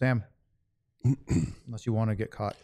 Sam, unless you want to get caught.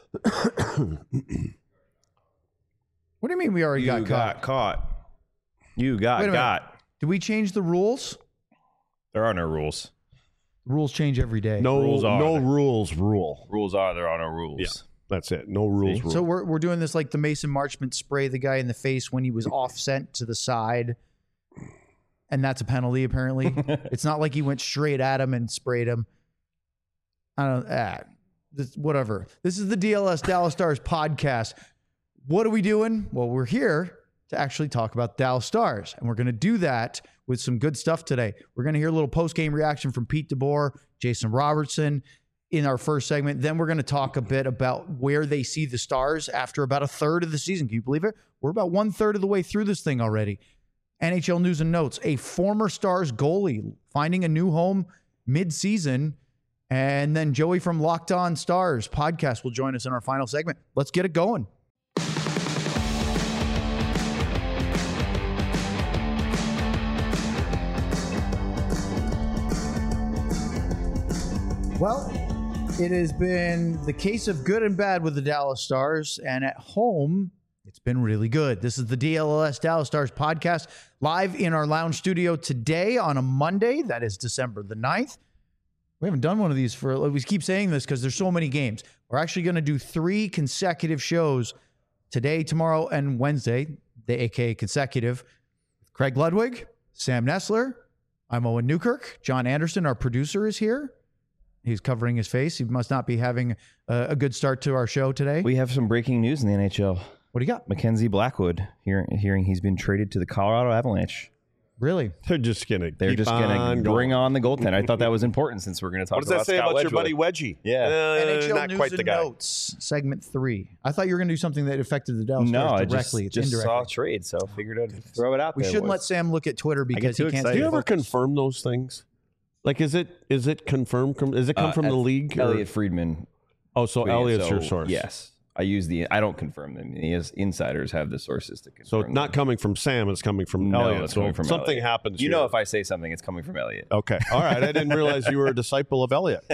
What do you mean we already got caught? You got got. Did we change the rules? There are no rules. Rules change every day. Rules are. Rules rule. Rules are. There are no rules. Yeah, that's it. No rules. See? So we're doing this like the Mason Marchment spray the guy in the face when he was offset to the side. And that's a penalty, apparently. It's not like he went straight at him and sprayed him. I don't whatever. This is the DLS Dallas Stars podcast. What are we doing? Well, we're here to actually talk about Dallas Stars. And we're going to do that with some good stuff today. We're going to hear a little post-game reaction from Pete DeBoer, Jason Robertson in our first segment. Then we're going to talk a bit about where they see the Stars after about a third of the season. Can you believe it? We're about 1/3 of the way through this thing already. NHL news and notes. A former Stars goalie finding a new home mid-season. And then Joey from Locked On Stars podcast will join us in our final segment. Let's get it going. Well, it has been the case of good and bad with the Dallas Stars, and at home, it's been really good. This is the DLS Dallas Stars podcast, live in our lounge studio today on a Monday. That is December the 9th. We haven't done one of these we keep saying this because there's so many games. We're actually going to do 3 consecutive shows today, tomorrow, and Wednesday, the AKA consecutive. Craig Ludwig, Sam Nessler, I'm Owen Newkirk. John Anderson, our producer, is here. He's covering his face. He must not be having a good start to our show today. We have some breaking news in the NHL. What do you got? Mackenzie Blackwood, hearing he's been traded to the Colorado Avalanche. Really? They're just going to bring on the goaltender. I thought that was important since we're going to talk about What does that say about your buddy Wedgie? Yeah. NHL not News quite and the guy. Notes, segment 3. I thought you were going to do something that affected the Dallas Stars directly. I just saw a trade, so figured I'd throw it out there. We shouldn't let Sam look at Twitter because he can't. Do you ever confirm those things? Like, is it confirmed? Does it come from the league? Elliot Friedman. Oh, so Elliot's your source. Yes. I don't confirm them. Insiders have the sources to confirm. So not coming from Sam, it's coming from Elliot. It's coming from something Elliot. happens. You know, if I say something, it's coming from Elliot. Okay. All right. I didn't realize you were a disciple of Elliot.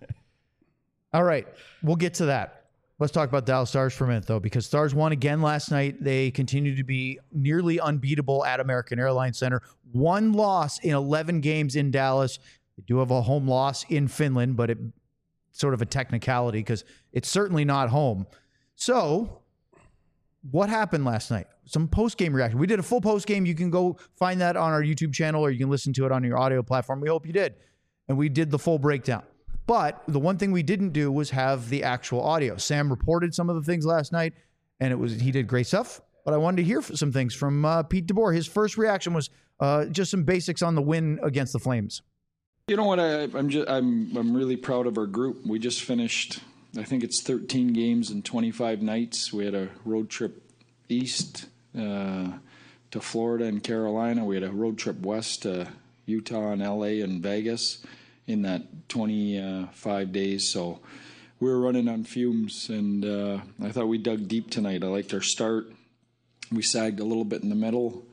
All right. We'll get to that. Let's talk about Dallas Stars for a minute, though, because Stars won again last night. They continue to be nearly unbeatable at American Airlines Center. 1 loss in 11 games in Dallas. They do have a home loss in Finland, but it's sort of a technicality because it's certainly not home. So what happened last night? Some post-game reaction. We did a full post-game. You can go find that on our YouTube channel, or you can listen to it on your audio platform. We hope you did. And we did the full breakdown. But the one thing we didn't do was have the actual audio. Sam reported some of the things last night, and he did great stuff. But I wanted to hear some things from Pete DeBoer. His first reaction was just some basics on the win against the Flames. You know what? I'm really proud of our group. We just finished, I think it's 13 games and 25 nights. We had a road trip east to Florida and Carolina. We had a road trip west to Utah and LA and Vegas in that 25 days. So we were running on fumes, and I thought we dug deep tonight. I liked our start. We sagged a little bit in the middle,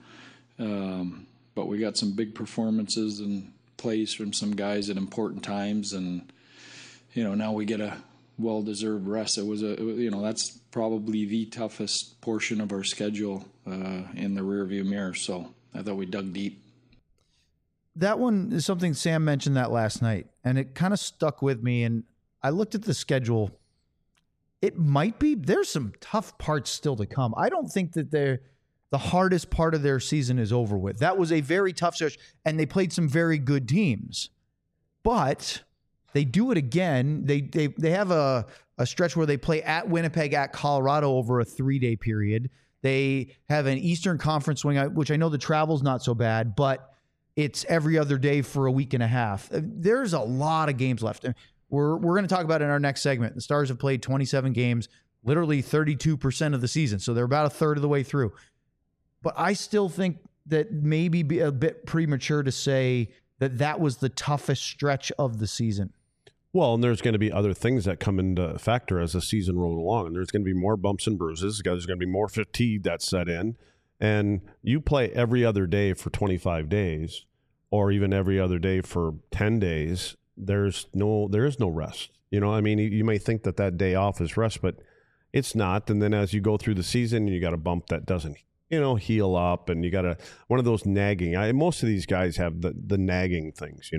but we got some big performances and plays from some guys at important times, and now we get a well-deserved rest. It was that's probably the toughest portion of our schedule in the rearview mirror. So I thought we dug deep. That one is something Sam mentioned that last night, and it kind of stuck with me. And I looked at the schedule. It might be there's some tough parts still to come. I don't think that the hardest part of their season is over with. That was a very tough stretch, and they played some very good teams. But they do it again. They have a stretch where they play at Winnipeg, at Colorado over a 3-day period. They have an Eastern Conference swing, which I know the travel's not so bad, but it's every other day for a week and a half. There's a lot of games left. We're going to talk about it in our next segment. The Stars have played 27 games, literally 32% of the season. So they're about a third of the way through. But I still think that maybe be a bit premature to say that was the toughest stretch of the season. Well, and there's going to be other things that come into factor as the season rolls along. And there's going to be more bumps and bruises. There's going to be more fatigue that's set in. And you play every other day for 25 days or even every other day for 10 days. there is no rest. You know, I mean, you may think that day off is rest, but it's not. And then as you go through the season, you got a bump that doesn't, heal up, and you got one of those nagging. Most of these guys have the nagging things,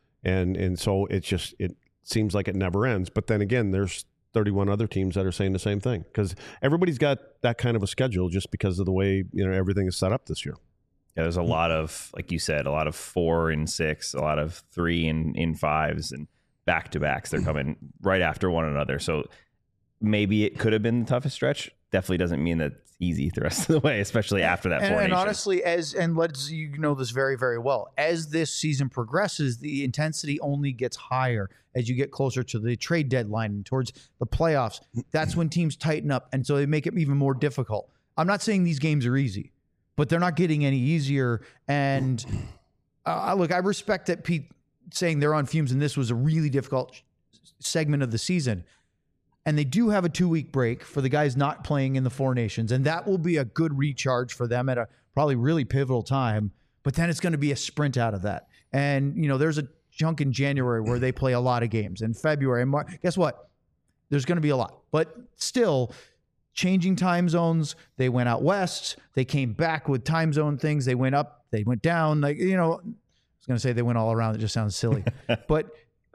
and so it seems like it never ends. But then again, there's 31 other teams that are saying the same thing, because everybody's got that kind of a schedule just because of the way everything is set up this year. Yeah, there's a lot of, like you said, a lot of 4 and 6, a lot of 3 and 5s, and back-to-backs. They're coming right after one another. So maybe it could have been the toughest stretch. Definitely doesn't mean that it's easy the rest of the way, especially after that. And honestly, let's this very, very well. As this season progresses, the intensity only gets higher as you get closer to the trade deadline and towards the playoffs. That's when teams tighten up, and so they make it even more difficult. I'm not saying these games are easy, but they're not getting any easier. And look, I respect that Pete saying they're on fumes and this was a really difficult segment of the season. And they do have a 2-week break for the guys not playing in the Four Nations. And that will be a good recharge for them at a probably really pivotal time. But then it's going to be a sprint out of that. And, there's a chunk in January where they play a lot of games. In February and March, guess what? There's going to be a lot. But still, changing time zones. They went out west. They came back with time zone things. They went up. They went down. I was going to say they went all around. It just sounds silly. But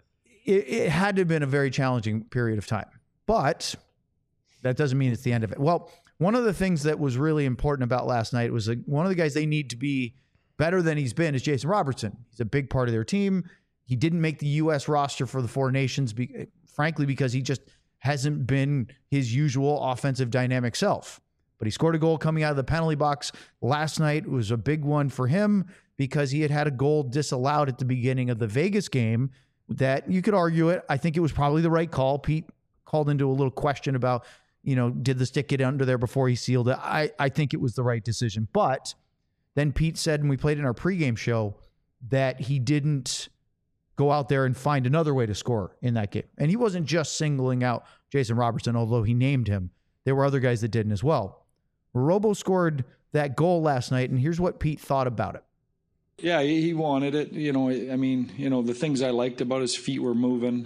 it had to have been a very challenging period of time. But that doesn't mean it's the end of it. Well, one of the things that was really important about last night was one of the guys they need to be better than he's been is Jason Robertson. He's a big part of their team. He didn't make the U.S. roster for the Four Nations, frankly, because he just hasn't been his usual offensive dynamic self. But he scored a goal coming out of the penalty box last night. It was a big one for him because he had a goal disallowed at the beginning of the Vegas game that you could argue it. I think it was probably the right call. Pete called into a little question about, did the stick get under there before he sealed it? I think it was the right decision. But then Pete said, and we played in our pregame show, that he didn't go out there and find another way to score in that game. And he wasn't just singling out Jason Robertson, although he named him. There were other guys that didn't as well. Robo scored that goal last night, and here's what Pete thought about it. Yeah, he wanted it. The things I liked about his feet were moving,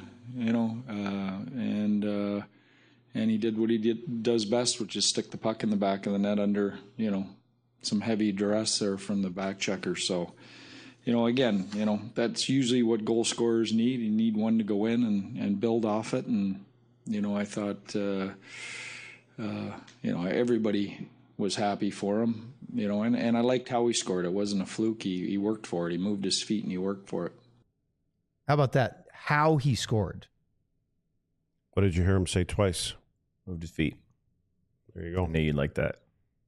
and he did what he does best, which is stick the puck in the back of the net under, some heavy duress there from the back checker. So, that's usually what goal scorers need. You need one to go in and build off it. And, I thought, everybody was happy for him, and I liked how he scored. It wasn't a fluke. He worked for it. He moved his feet and he worked for it. How about that? How he scored. What did you hear him say twice? Moved his feet. There you go. I knew you'd like that.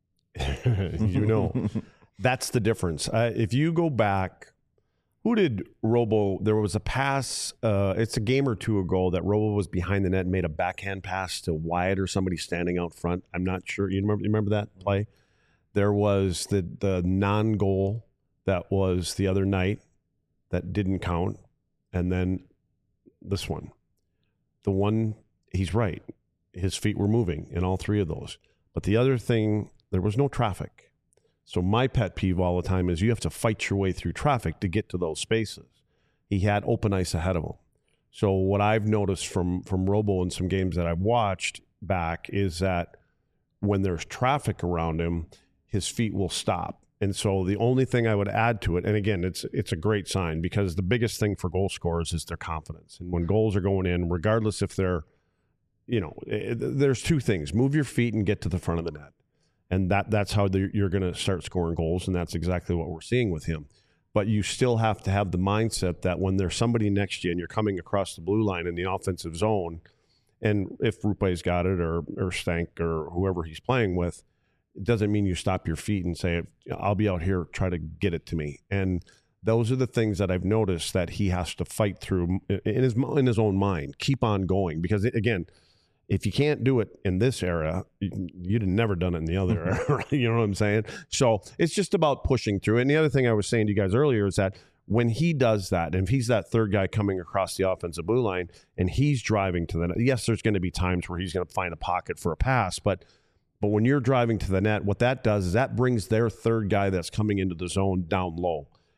That's the difference. If you go back, who did Robo? There was a pass. It's a game or two ago that Robo was behind the net and made a backhand pass to Wyatt or somebody standing out front. I'm not sure. You remember that play? There was the non-goal that was the other night that didn't count, and then this one. The one, he's right. His feet were moving in all three of those. But the other thing, there was no traffic. So my pet peeve all the time is you have to fight your way through traffic to get to those spaces. He had open ice ahead of him. So what I've noticed from Robo in some games that I've watched back is that when there's traffic around him, his feet will stop. And so the only thing I would add to it, and again, it's a great sign because the biggest thing for goal scorers is their confidence. And when goals are going in, regardless if they're, there's two things. Move your feet and get to the front of the net. And that's how you're going to start scoring goals, and that's exactly what we're seeing with him. But you still have to have the mindset that when there's somebody next to you and you're coming across the blue line in the offensive zone, and if Rupe's got it or Stank or whoever he's playing with, it doesn't mean you stop your feet and say, I'll be out here, try to get it to me. And those are the things that I've noticed that he has to fight through in his own mind, keep on going. Because, again, if you can't do it in this era, you'd have never done it in the other era. You know what I'm saying? So it's just about pushing through. And the other thing I was saying to you guys earlier is that when he does that, and if he's that third guy coming across the offensive blue line and he's driving to the net, yes, there's going to be times where he's going to find a pocket for a pass, but when you're driving to the net, what that does is that brings their third guy that's coming into the zone down low.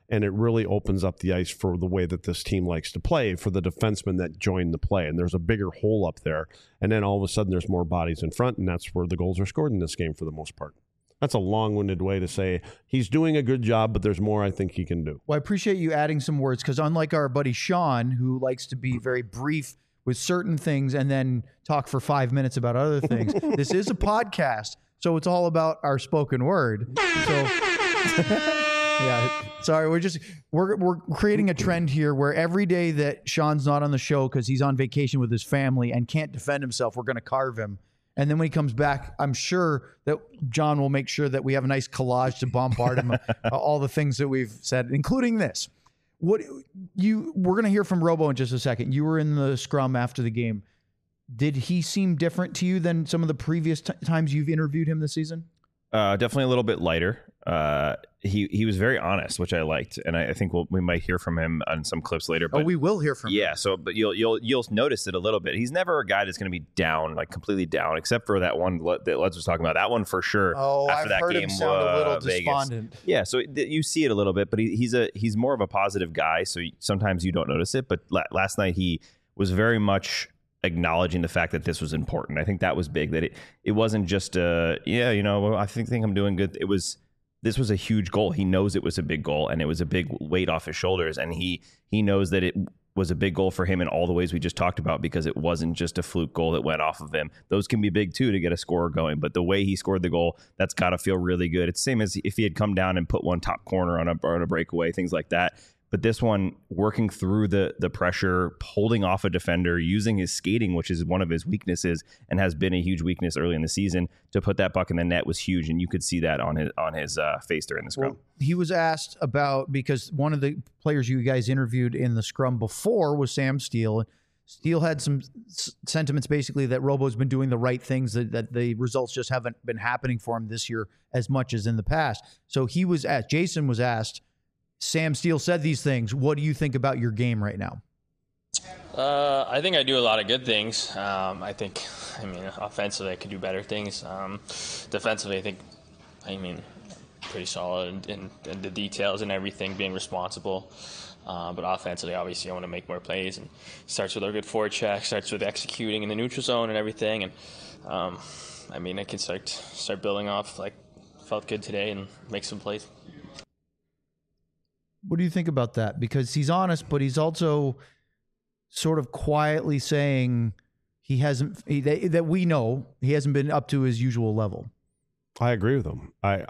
and it really opens up the ice for the way that this team likes to play for the defensemen that join the play. And there's a bigger hole up there. And then all of a sudden there's more bodies in front, and that's where the goals are scored in this game for the most part. That's a long-winded way to say he's doing a good job, but there's more I think he can do. Well, I appreciate you adding some words, because unlike our buddy Sean, who likes to be very brief with certain things and then talk for 5 minutes about other things, this is a podcast, so it's all about our spoken word. So, yeah, sorry, we're creating a trend here where every day that Sean's not on the show because he's on vacation with his family and can't defend himself, we're going to carve him. And then when he comes back, I'm sure that John will make sure that we have a nice collage to bombard him all the things that we've said, including this. We're going to hear from Robo in just a second. You were in the scrum after the game. Did he seem different to you than some of the previous times you've interviewed him this season? Definitely a little bit lighter. He was very honest, which I liked, and I think we might hear from him on some clips later. But we will hear from him. Yeah, so but you'll notice it a little bit. He's never a guy that's going to be down, like completely down, except for that one that Les was talking about. That one for sure. Oh, after I've that heard game, him sound a little Vegas. despondent. Yeah, so you see it a little bit, but he's more of a positive guy. So sometimes you don't notice it. But last night he was very much acknowledging the fact that this was important. I think that was big. That it wasn't just I think I'm doing good. This was a huge goal. He knows it was a big goal, and it was a big weight off his shoulders. And he knows that it was a big goal for him in all the ways we just talked about, because it wasn't just a fluke goal that went off of him. Those can be big too to get a scorer going. But the way he scored the goal, that's got to feel really good. It's the same as if he had come down and put one top corner on a breakaway, things like that. But this one, working through the pressure, holding off a defender, using his skating, which is one of his weaknesses and has been a huge weakness early in the season, to put that puck in the net was huge. And you could see that on his face during the scrum. Well, he was asked about, because one of the players you guys interviewed in the scrum before was Sam Steele. Steele had some sentiments basically that Robo's been doing the right things, that the results just haven't been happening for him this year as much as in the past. So he was asked, Jason was asked, Sam Steele said these things. What do you think about your game right now? I think I do a lot of good things. Offensively, I could do better things. Defensively, I think, pretty solid in the details and everything, being responsible. But offensively, obviously, I want to make more plays, and starts with a good forecheck, starts with executing in the neutral zone and everything. And I can start building off. Like, felt good today and make some plays. What do you think about that? Because he's honest, but he's also sort of quietly saying that we know he hasn't been up to his usual level. I agree with him. I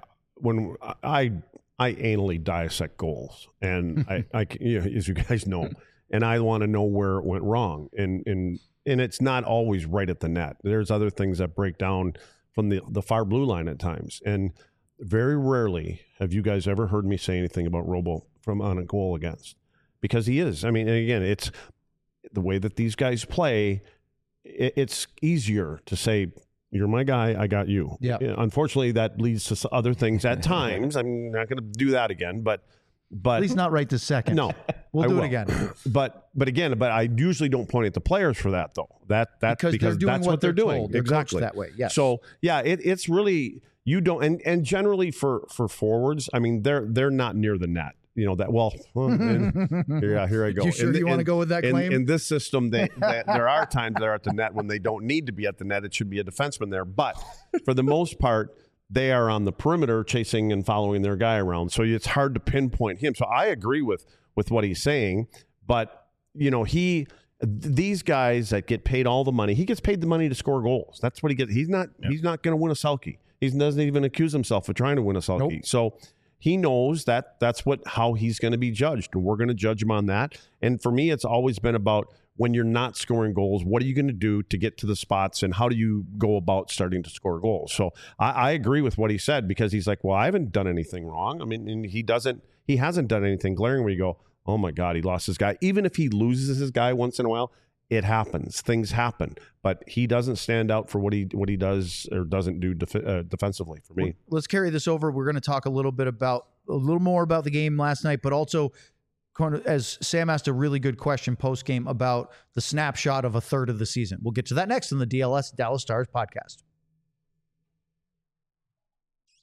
anally dissect goals, and I as you guys know, and I want to know where it went wrong. And it's not always right at the net. There's other things that break down from the far blue line at times, and very rarely have you guys ever heard me say anything about Robo from on a goal against, because he is. I mean, and again, it's the way that these guys play. It's easier to say, "You're my guy, I got you." Yeah. Unfortunately, that leads to other things at times. I'm not going to do that again, but at least not right this second. No, we'll do it again. But I usually don't point at the players for that, though. That's because that's what they're doing. They're exactly that way. Yes. So yeah, it's really, you don't, and generally for forwards, I mean, they're not near the net. You know that well. Here I go. You sure you want to go with that claim? In this system, there are times they're at the net when they don't need to be at the net. It should be a defenseman there, but for the most part, they are on the perimeter chasing and following their guy around. So it's hard to pinpoint him. So I agree with what he's saying, but these guys that get paid all the money, he gets paid the money to score goals. That's what he gets. He's not going to win a Selke. He doesn't even accuse himself of trying to win a Selke. Nope. So he knows that's how he's going to be judged, and we're going to judge him on that. And for me, it's always been about, when you're not scoring goals, what are you going to do to get to the spots, and how do you go about starting to score goals? So I agree with what he said, because he's like, well, I haven't done anything wrong. I mean, and he hasn't done anything glaring where you go, oh my God, he lost his guy. Even if he loses his guy once in a while, it happens. Things happen, but he doesn't stand out for what he does or doesn't do defensively for me. Let's carry this over. We're going to talk a little more about the game last night, but also, as Sam asked a really good question post-game about the snapshot of a third of the season. We'll get to that next on the DLS Dallas Stars podcast.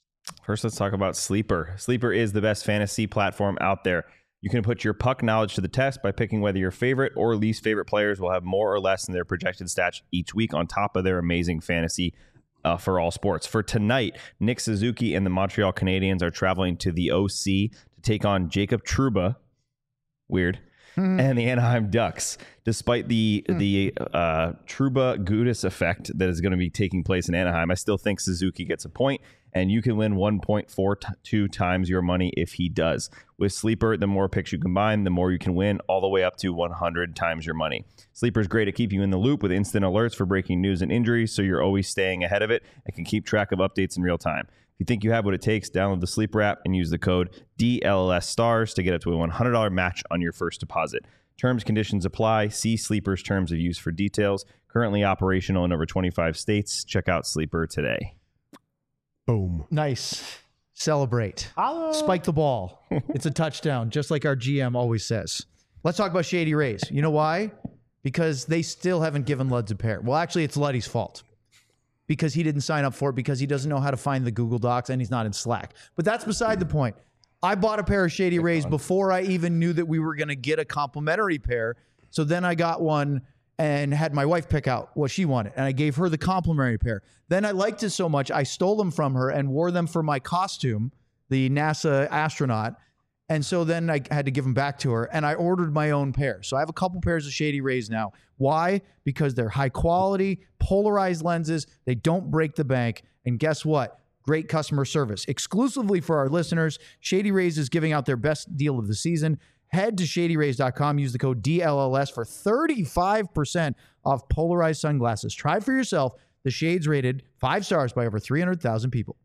First, let's talk about Sleeper. Sleeper is the best fantasy platform out there. You can put your puck knowledge to the test by picking whether your favorite or least favorite players will have more or less in their projected stats each week on top of their amazing fantasy for all sports. For tonight, Nick Suzuki and the Montreal Canadiens are traveling to the OC to take on Jacob Trouba. Weird. And the Anaheim Ducks. Despite the Trouba Gudis effect that is going to be taking place in Anaheim, I still think Suzuki gets a point, and you can win 1.42 times your money if he does. With Sleeper, the more picks you combine, the more you can win, all the way up to 100 times your money. Sleeper is great at keeping you in the loop with instant alerts for breaking news and injuries, so you're always staying ahead of it and can keep track of updates in real time. If you think you have what it takes, download the Sleeper app and use the code DLLS to get up to a $100 match on your first deposit. Terms, conditions apply. See Sleeper's terms of use for details. Currently operational in over 25 states. Check out Sleeper today. Boom. Nice. Celebrate. Spike the ball. It's a touchdown, just like our GM always says. Let's talk about Shady Rays. You know why? Because they still haven't given Luds a pair. Well, actually, it's Luddy's fault. Because he didn't sign up for it, because he doesn't know how to find the Google Docs, and he's not in Slack. But that's beside the point. I bought a pair of Shady Rays before I even knew that we were going to get a complimentary pair. So then I got one and had my wife pick out what she wanted, and I gave her the complimentary pair. Then I liked it so much, I stole them from her and wore them for my costume, the NASA astronaut. And so then I had to give them back to her, and I ordered my own pair. So I have a couple pairs of Shady Rays now. Why? Because they're high quality, polarized lenses. They don't break the bank. And guess what? Great customer service. Exclusively for our listeners, Shady Rays is giving out their best deal of the season. Head to shadyrays.com. Use the code DLLS for 35% off polarized sunglasses. Try for yourself. The shades rated 5 stars by over 300,000 people.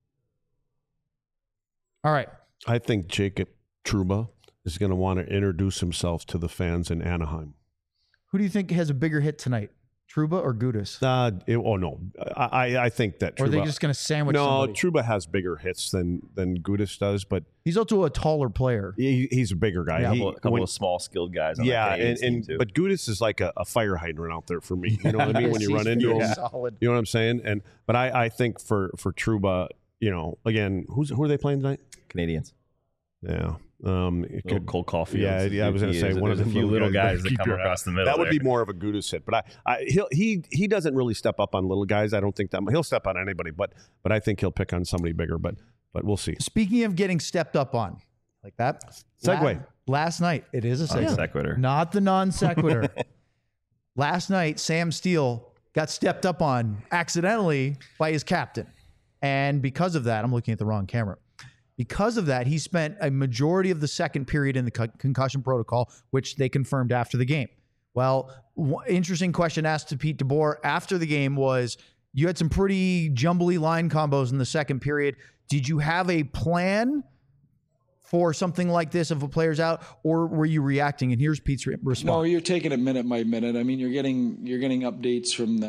All right. I think Jacob Trouba is going to want to introduce himself to the fans in Anaheim. Who do you think has a bigger hit tonight? Trouba or Gudis? No. I think that Trouba... Or are they just going to sandwich somebody? Trouba has bigger hits than Gudis does, but... He's also a taller player. He's a bigger guy. Yeah, a couple of small, skilled guys on that team too. But Gudis is like a fire hydrant out there for me. You know what I mean? When you run into him. Solid. You know what I'm saying? But I think for Trouba, again, who are they playing tonight? Canadians. Yeah. Cole Caulfield. Yeah, I was going to say one of the few little guys that come across the middle. That would be more of a Gudis hit, but he doesn't really step up on little guys. I don't think that he'll step on anybody, but I think he'll pick on somebody bigger. But we'll see. Speaking of getting stepped up on, like that segue. Last night, it is a segue. Sequitur. Not the non sequitur. Last night, Sam Steele got stepped up on accidentally by his captain, and because of that, I'm looking at the wrong camera. Because of that, he spent a majority of the second period in the concussion protocol, which they confirmed after the game. Well, interesting question asked to Pete DeBoer after the game was, you had some pretty jumbly line combos in the second period. Did you have a plan for something like this if a player's out, or were you reacting? And here's Pete's response. No, you're taking it minute by minute. I mean, you're getting updates from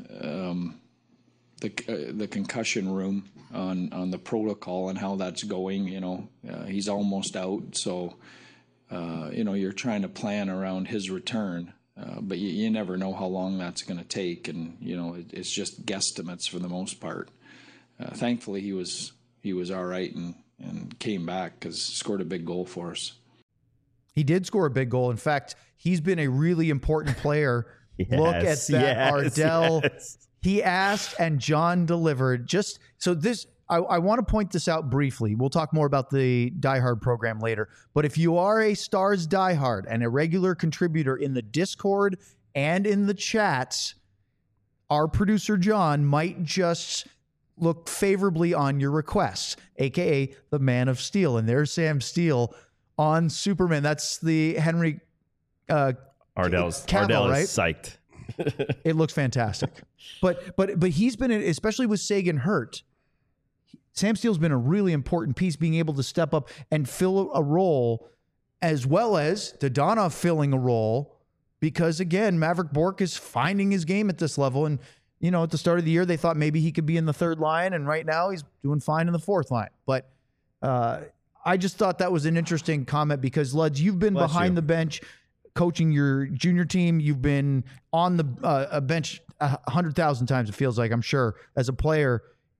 the concussion room on the protocol and how that's going. He's almost out, so you're trying to plan around his return, but you never know how long that's going to take, and it's just guesstimates for the most part. Thankfully, he was all right and came back because scored a big goal for us. He did score a big goal. In fact, he's been a really important player. Look at that, Ardell. Yes. He asked and John delivered. Just so this, I want to point this out briefly. We'll talk more about the Die Hard program later. But if you are a Stars Die Hard and a regular contributor in the Discord and in the chats, our producer John might just look favorably on your requests, aka the Man of Steel. And there's Sam Steele on Superman. That's the Henry Ardell is psyched. It looks fantastic. But he's been, especially with Sagan hurt, Sam Steele's been a really important piece, being able to step up and fill a role, as well as Dadonov filling a role, because again, Maverick Bourque is finding his game at this level. And at the start of the year, they thought maybe he could be in the third line, and right now he's doing fine in the fourth line. But I just thought that was an interesting comment, because Luds, you've been behind the bench coaching your junior team. You've been on the a bench 100,000 times, it feels like, I'm sure, as a player.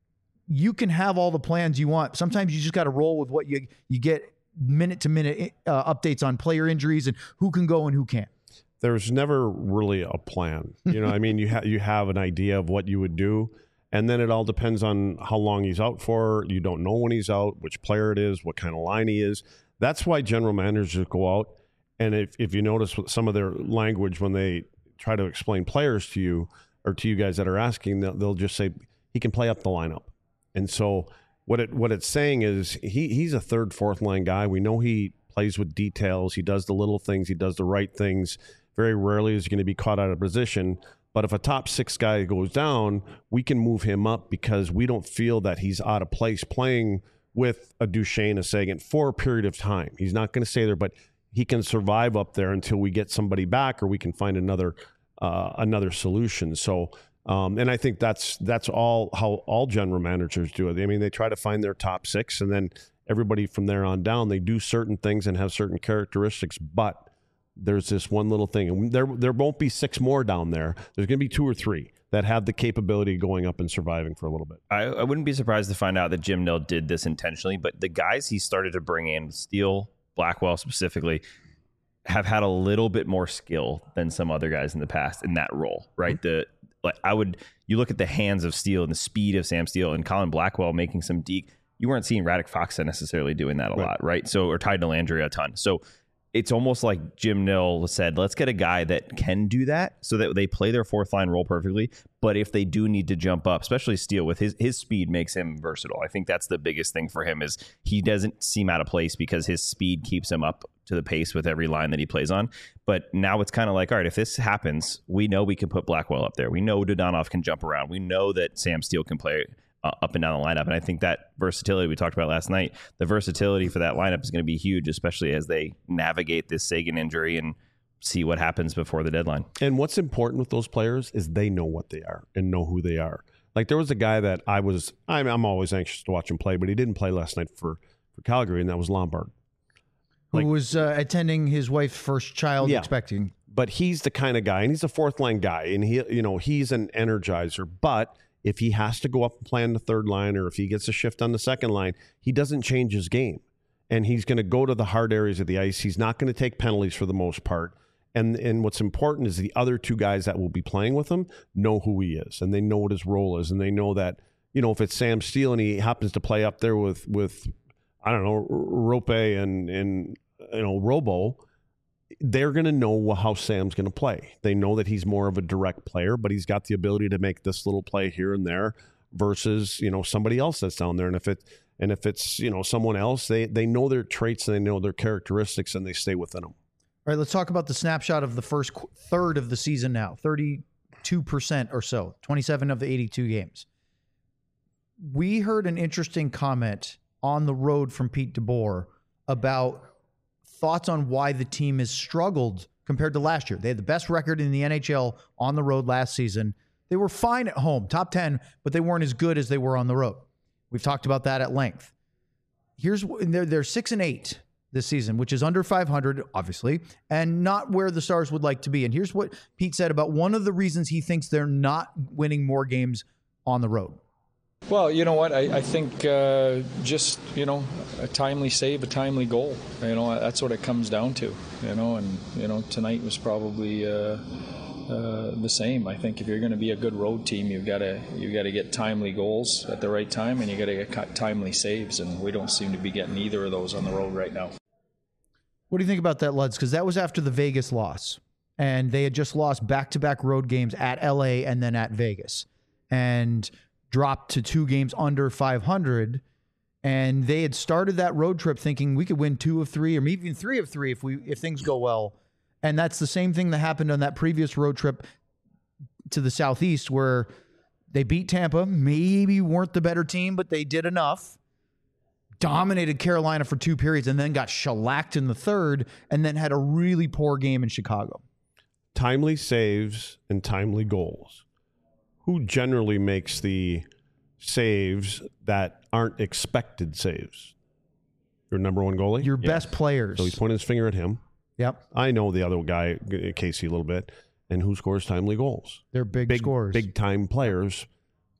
you can have all the plans you want. Sometimes you just got to roll with what you get minute to minute updates on player injuries and who can go and who can't. There's never really a plan. I mean, you have an idea of what you would do, and then it all depends on how long he's out for. You don't know when he's out, which player it is, what kind of line he is. That's why general managers go out, and if you notice some of their language when they try to explain players to you or to you guys that are asking, they'll just say he can play up the lineup. And so what it's saying is he's a third, fourth line guy. We know he plays with details. He does the little things. He does the right things. Very rarely is he going to be caught out of position. But if a top six guy goes down, we can move him up because we don't feel that he's out of place playing with a Duchesne, a Seguin for a period of time. He's not going to stay there, but he can survive up there until we get somebody back or we can find another solution. So, and I think that's all how all general managers do it. I mean, they try to find their top six, and then everybody from there on down, they do certain things and have certain characteristics, but there's this one little thing. And there won't be six more down there. There's going to be two or three that have the capability of going up and surviving for a little bit. I wouldn't be surprised to find out that Jim Nill did this intentionally, but the guys he started to bring in, Steele, Blackwell specifically, have had a little bit more skill than some other guys in the past in that role, right? Mm-hmm. You look at the hands of Steele and the speed of Sam Steele and Colin Blackwell making some deke. You weren't seeing Radek Faksa necessarily doing that a lot, right? So, or Ty Dellandrea a ton. So it's almost like Jim Nill said, let's get a guy that can do that so that they play their fourth line role perfectly. But if they do need to jump up, especially Steele with his speed makes him versatile. I think that's the biggest thing for him is he doesn't seem out of place because his speed keeps him up to the pace with every line that he plays on. But now it's kind of like, all right, if this happens, we know we can put Blackwell up there. We know Dodonov can jump around. We know that Sam Steele can play up and down the lineup. And I think that versatility we talked about last night, the versatility for that lineup is going to be huge, especially as they navigate this Seguin injury and see what happens before the deadline. And what's important with those players is they know what they are and know who they are. Like there was a guy that I'm always anxious to watch him play, but he didn't play last night for Calgary, and that was Lombard. Who was attending his wife's first child expecting. But he's the kind of guy, and he's a fourth line guy, and he's an energizer, but if he has to go up and play on the third line or if he gets a shift on the second line, he doesn't change his game. And he's going to go to the hard areas of the ice. He's not going to take penalties for the most part. And what's important is the other two guys that will be playing with him know who he is, and they know what his role is. And they know that, if it's Sam Steele and he happens to play up there with I don't know, Rope and Robo, they're going to know how Sam's going to play. They know that he's more of a direct player, but he's got the ability to make this little play here and there versus, somebody else that's down there. And if it's someone else, they know their traits and they know their characteristics and they stay within them. All right, let's talk about the snapshot of the first third of the season now. 32% or so, 27 of the 82 games. We heard an interesting comment on the road from Pete DeBoer about thoughts on why the team has struggled compared to last year. They had the best record in the NHL on the road last season. They were fine at home, top 10, but they weren't as good as they were on the road. We've talked about that at length. They're 6-8 this season, which is under 500, obviously, and not where the Stars would like to be. And here's what Pete said about one of the reasons he thinks they're not winning more games on the road. Well, you know what? I think just, a timely save, a timely goal. That's what it comes down to, and, tonight was probably the same. I think if you're going to be a good road team, you've got to get timely goals at the right time, and you got to get timely saves, and we don't seem to be getting either of those on the road right now. What do you think about that, Luds? Because that was after the Vegas loss, and they had just lost back-to-back road games at LA and then at Vegas, and dropped to 2 games under 500, and they had started that road trip thinking we could win 2 of 3 or maybe even 3 of 3 if things go well. And that's the same thing that happened on that previous road trip to the Southeast where they beat Tampa, maybe weren't the better team, but they did enough, dominated Carolina for 2 periods, and then got shellacked in the third, and then had a really poor game in Chicago. Timely saves and timely goals. Who generally makes the saves that aren't expected saves? Your number one goalie? Your best players. So he's pointing his finger at him. Yep. I know the other guy, Casey, a little bit. And who scores timely goals? They're big scorers. Big-time players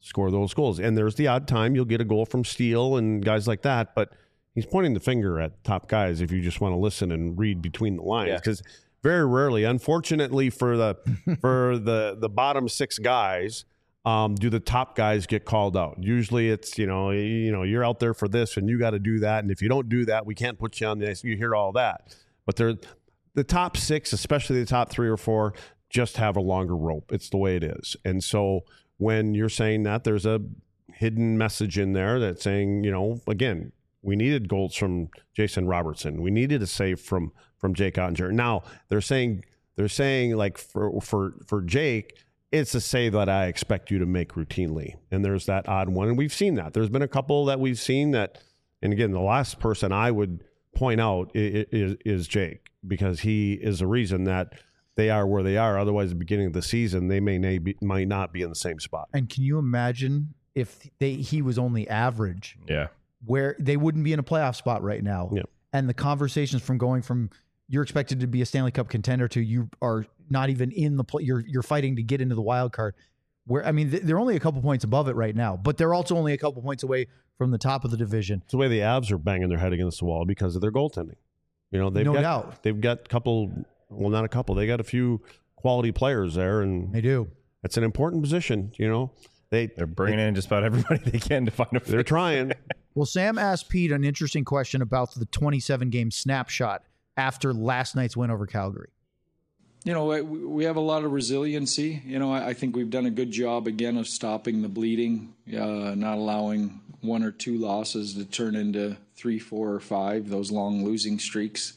score those goals. And there's the odd time you'll get a goal from Steele and guys like that, but he's pointing the finger at top guys if you just want to listen and read between the lines, because very rarely, unfortunately for the bottom 6 guys, do the top guys get called out. Usually it's, you're out there for this and you got to do that. And if you don't do that, we can't put you on the ice. You hear all that. But the top 6, especially the top 3 or 4, just have a longer rope. It's the way it is. And so when you're saying that, there's a hidden message in there that's saying, again, we needed goals from Jason Robertson. We needed a save from Jake Ottinger. Now they're saying like for Jake, it's a save that I expect you to make routinely. And there's that odd one. And we've seen that. There's been a couple that we've seen that, and again, the last person I would point out is Jake, because he is a reason that they are where they are. Otherwise, at the beginning of the season, they might not be in the same spot. And can you imagine if he was only average? Yeah. Where they wouldn't be in a playoff spot right now. Yeah. And the conversations from going from you're expected to be a Stanley Cup contender to you are not even in the play. You're fighting to get into the wild card. Where they're only a couple points above it right now, but they're also only a couple points away from the top of the division. It's the way the Avs are banging their head against the wall because of their goaltending. No doubt. They've got not a couple. They got a few quality players there, and they do. It's an important position. They're bringing in just about everybody they can to find a. They're trying. Well, Sam asked Pete an interesting question about the 27-game snapshot after last night's win over Calgary. We have a lot of resiliency. I think we've done a good job again of stopping the bleeding, not allowing 1 or 2 losses to turn into 3, 4, or 5, those long losing streaks.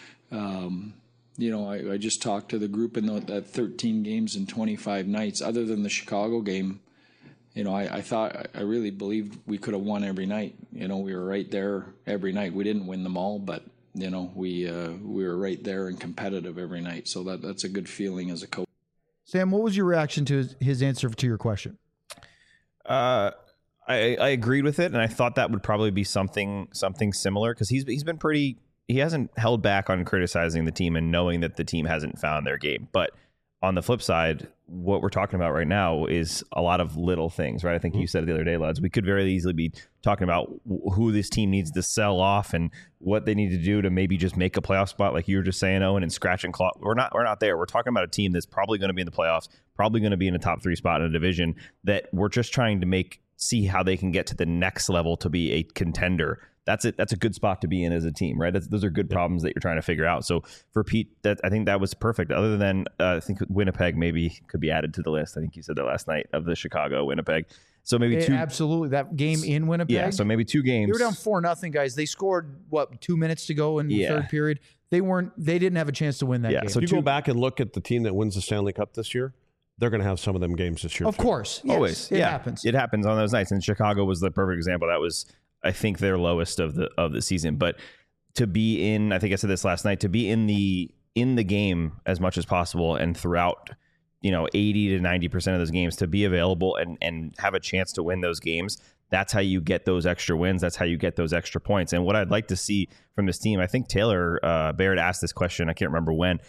I just talked to the group in that 13 games and 25 nights. Other than the Chicago game, I really believed we could have won every night. We were right there every night. We didn't win them all, but we were right there and competitive every night. So that's a good feeling as a coach. Sam, what was your reaction to his answer to your question? I agreed with it, and I thought that would probably be something similar, because he's been pretty. He hasn't held back on criticizing the team and knowing that the team hasn't found their game. But on the flip side, what we're talking about right now is a lot of little things, right? I think you said it the other day, Luds. We could very easily be talking about who this team needs to sell off and what they need to do to maybe just make a playoff spot, like you were just saying, Owen, and scratch and claw. We're not there. We're talking about a team that's probably going to be in the playoffs, probably going to be in a top 3 spot in a division that we're just trying to see how they can get to the next level to be a contender. That's it. That's a good spot to be in as a team, right? Those are good problems that you're trying to figure out. So for Pete, I think that was perfect. Other than I think Winnipeg maybe could be added to the list. I think you said that last night, of the Chicago Winnipeg. So maybe 2. Absolutely, that game in Winnipeg. Yeah. So maybe 2 games. They were down 4-0, guys. They scored 2 minutes to go in the third period. They didn't have a chance to win that game. So if you go back and look at the team that wins the Stanley Cup this year, they're going to have some of them games this year. Of course, yes, always. It happens. It happens on those nights, and Chicago was the perfect example. That was, I think, their lowest of the season. But to be in, I think I said this last night, to be in the game as much as possible and throughout 80 to 90% of those games, to be available and have a chance to win those games, that's how you get those extra wins. That's how you get those extra points. And what I'd like to see from this team, I think Taylor Barrett asked this question, I can't remember when.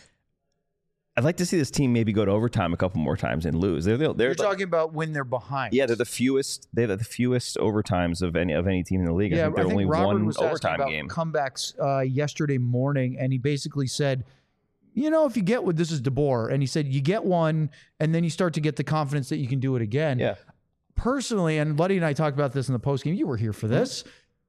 I'd like to see this team maybe go to overtime a couple more times and lose. You're talking about when they're behind. Yeah, they're the fewest. They have the fewest overtimes of any team in the league. Yeah, I think only Robert one was overtime about game. Comebacks yesterday morning, and he basically said, if you get this is DeBoer, and he said you get one, and then you start to get the confidence that you can do it again. Yeah. Personally, and Luddy and I talked about this in the postgame. You were here for this.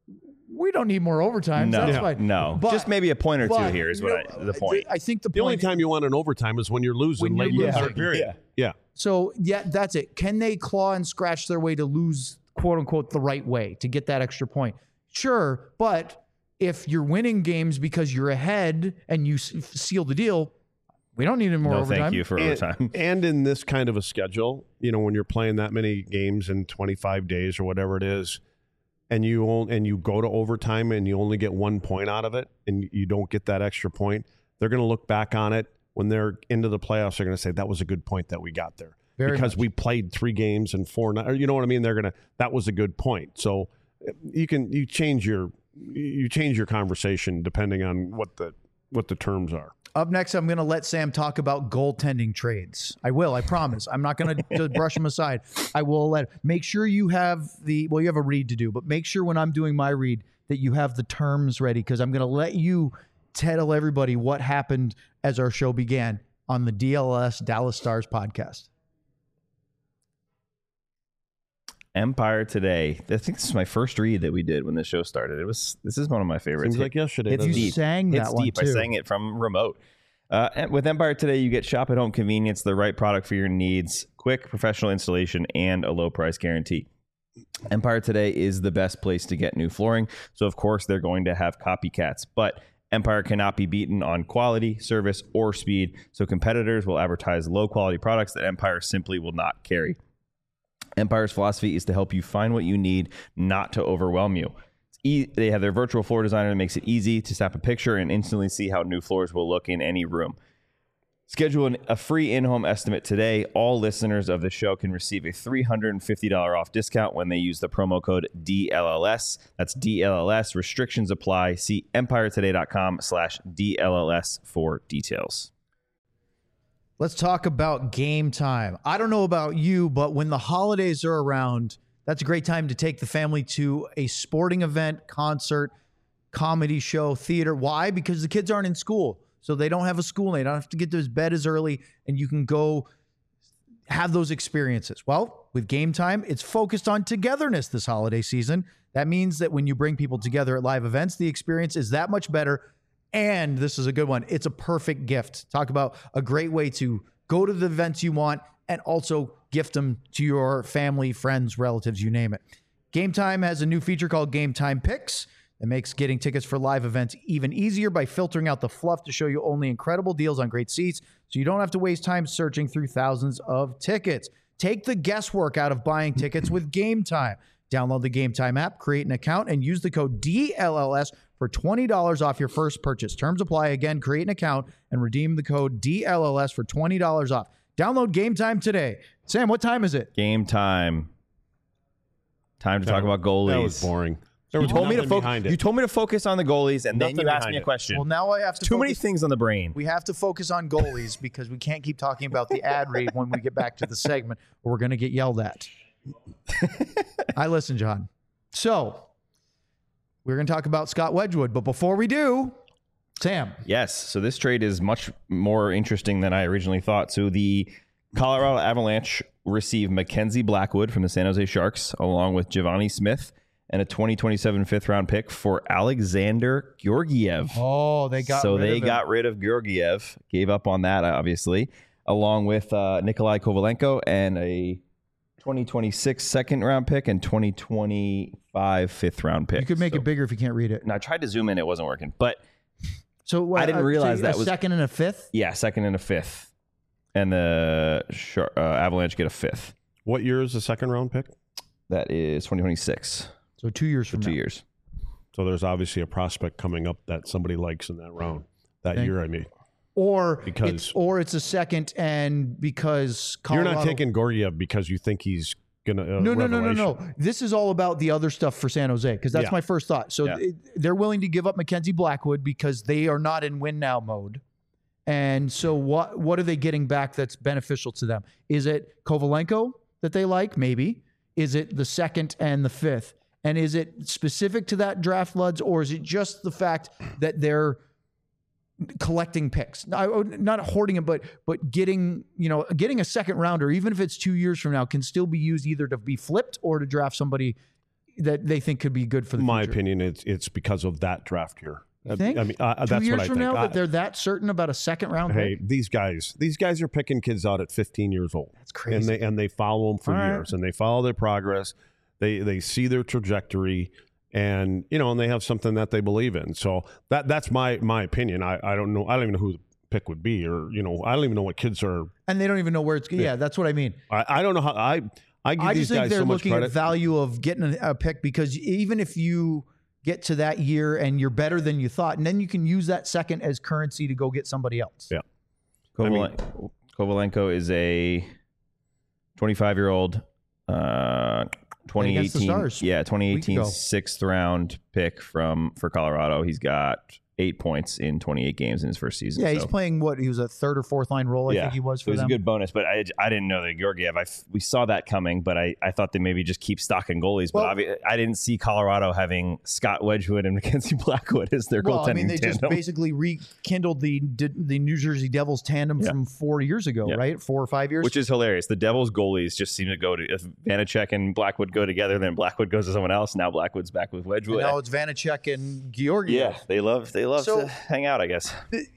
We don't need more overtime. That's fine. No, but, just maybe a point or two here is the point. I think the only time you want an overtime is when you're losing late in the third period. Yeah. So, that's it. Can they claw and scratch their way to lose, quote unquote, the right way to get that extra point? Sure. But if you're winning games because you're ahead and you seal the deal, we don't need any more overtime. Thank you for overtime. And in this kind of a schedule, when you're playing that many games in 25 days or whatever it is, and you go to overtime and you only get 1 point out of it, and you don't get that extra point, they're going to look back on it when they're into the playoffs. They're going to say that was a good point that we got there because we played 3 games and 4 nights. You know what I mean? That was a good point. So you change your conversation depending on what the what the terms are. Up next, I'm going to let Sam talk about goaltending trades. I will, I promise. I'm not going to brush him aside. I will make sure you have you have a read to do, but make sure when I'm doing my read that you have the terms ready, because I'm going to let you tell everybody what happened as our show began on the DLS Dallas Stars podcast. Empire Today. I think this is my first read that we did when the show started. This is one of my favorites. Seems like yesterday. It's You deep. sang that It's one, deep. too. I sang it from remote. And with Empire Today, you get shop at home convenience, the right product for your needs, quick professional installation, and a low price guarantee. Empire Today is the best place to get new flooring. So, of course, they're going to have copycats. But Empire cannot be beaten on quality, service, or speed. So competitors will advertise low-quality products that Empire simply will not carry. Empire's philosophy is to help you find what you need, not to overwhelm you. They have their virtual floor designer that makes it easy to snap a picture and instantly see how new floors will look in any room. Schedule a free in-home estimate today. All listeners of the show can receive a $350 off discount when they use the promo code DLLS. That's DLLS. Restrictions apply. See empiretoday.com/DLLS for details. Let's talk about Game Time. I don't know about you, but when the holidays are around, that's a great time to take the family to a sporting event, concert, comedy show, theater. Why? Because the kids aren't in school. So they don't have a school. They don't have to get to bed as early, and you can go have those experiences. Well, with Game Time, it's focused on togetherness this holiday season. That means that when you bring people together at live events, the experience is that much better. And this is a good one. It's a perfect gift. Talk about a great way to go to the events you want and also gift them to your family, friends, relatives, you name it. Game Time has a new feature called Game Time Picks. It makes getting tickets for live events even easier by filtering out the fluff to show you only incredible deals on great seats, so you don't have to waste time searching through thousands of tickets. Take the guesswork out of buying tickets with Game Time. Download the Game Time app, create an account, and use the code DLLS for $20 off your first purchase. Terms apply. Again, create an account and redeem the code DLLS for $20 off. Download Game Time today. Sam, what time is it? Game time. Time to talk about goalies. That was boring. There You was told me to nothing behind it. You told me to focus on the goalies, and then Nothing you asked behind me a it. question. Well, now I have to Too many focus- things on the brain. We have to focus on goalies because we can't keep talking about the ad read when we get back to the segment, or we're going to get yelled at. I listen, John. So we're going to talk about Scott Wedgwood, but before we do, Sam. Yes. So this trade is much more interesting than I originally thought. So the Colorado Avalanche received Mackenzie Blackwood from the San Jose Sharks, along with Giovanni Smith and a 2027 fifth-round pick for Alexander Georgiev. Oh, they got rid of Georgiev, gave up on that, obviously, along with Nikolai Kovalenko and a 2026 second-round pick and 2025 fifth-round pick. You could make it bigger if you can't read it. And I tried to zoom in. It wasn't working. But So I didn't realize that a was- second and a fifth. yeah, second and a fifth. And the Avalanche get a fifth. What year is the second round pick? That is 2026. So 2 years from 2 now. years. So there's obviously a prospect coming up that somebody likes in that round. That Thank- year, I mean. Or Because- it's a second, and because Colorado, You're not taking Gorgiev because you think he's going to No. This is all about the other stuff for San Jose, because that's Yeah. my first thought. So Yeah. they're willing to give up Mackenzie Blackwood because they are not in win now mode. And so what are they getting back that's beneficial to them? Is it Kovalenko that they like? Maybe. Is it the second and the fifth? And is it specific to that draft, Luds, or is it just the fact that they're collecting picks, not hoarding them, but getting a second rounder, even if it's 2 years from now, can still be used either to be flipped or to draft somebody that they think could be good for the My future. opinion, it's because of that draft year. You think? I mean, 2 that's years what I from think. now that they're that certain about a second round Hey, pick? these guys are picking kids out at 15 years old. That's crazy. And they follow them for All right. years, and they follow their progress. They see their trajectory, and and they have something that they believe in. So that's my opinion. I don't know. I don't even know who the pick would be, or I don't even know what kids are. And they don't even know where it's. Yeah, that's what I mean. I don't know how I give I these just think guys they're so much looking at credit. value of getting a pick, because even if you get to that year and you're better than you thought, and then you can use that second as currency to go get somebody else. Yeah. I mean- Kovalenko is a 25-year-old, Against the 2018, Stars. yeah, Week 2018 ago. sixth round pick for Colorado. He's got 8 points in 28 games in his first season. Yeah, he's playing he was a third or fourth line role, I think he was for it was them. a good bonus, but I didn't know that Georgiev. We saw that coming, but I thought they maybe just keep stocking goalies. But I didn't see Colorado having Scott Wedgwood and Mackenzie Blackwood as their goaltending tandem. They just basically rekindled the New Jersey Devils tandem from 4 years ago, right? 4 or 5 years. Which is hilarious. The Devils goalies just seem to go to, if Vanacek and Blackwood go together, then Blackwood goes to someone else. Now Blackwood's back with Wedgwood. And now it's Vanacek and Georgiev. Yeah, they love to hang out, I guess.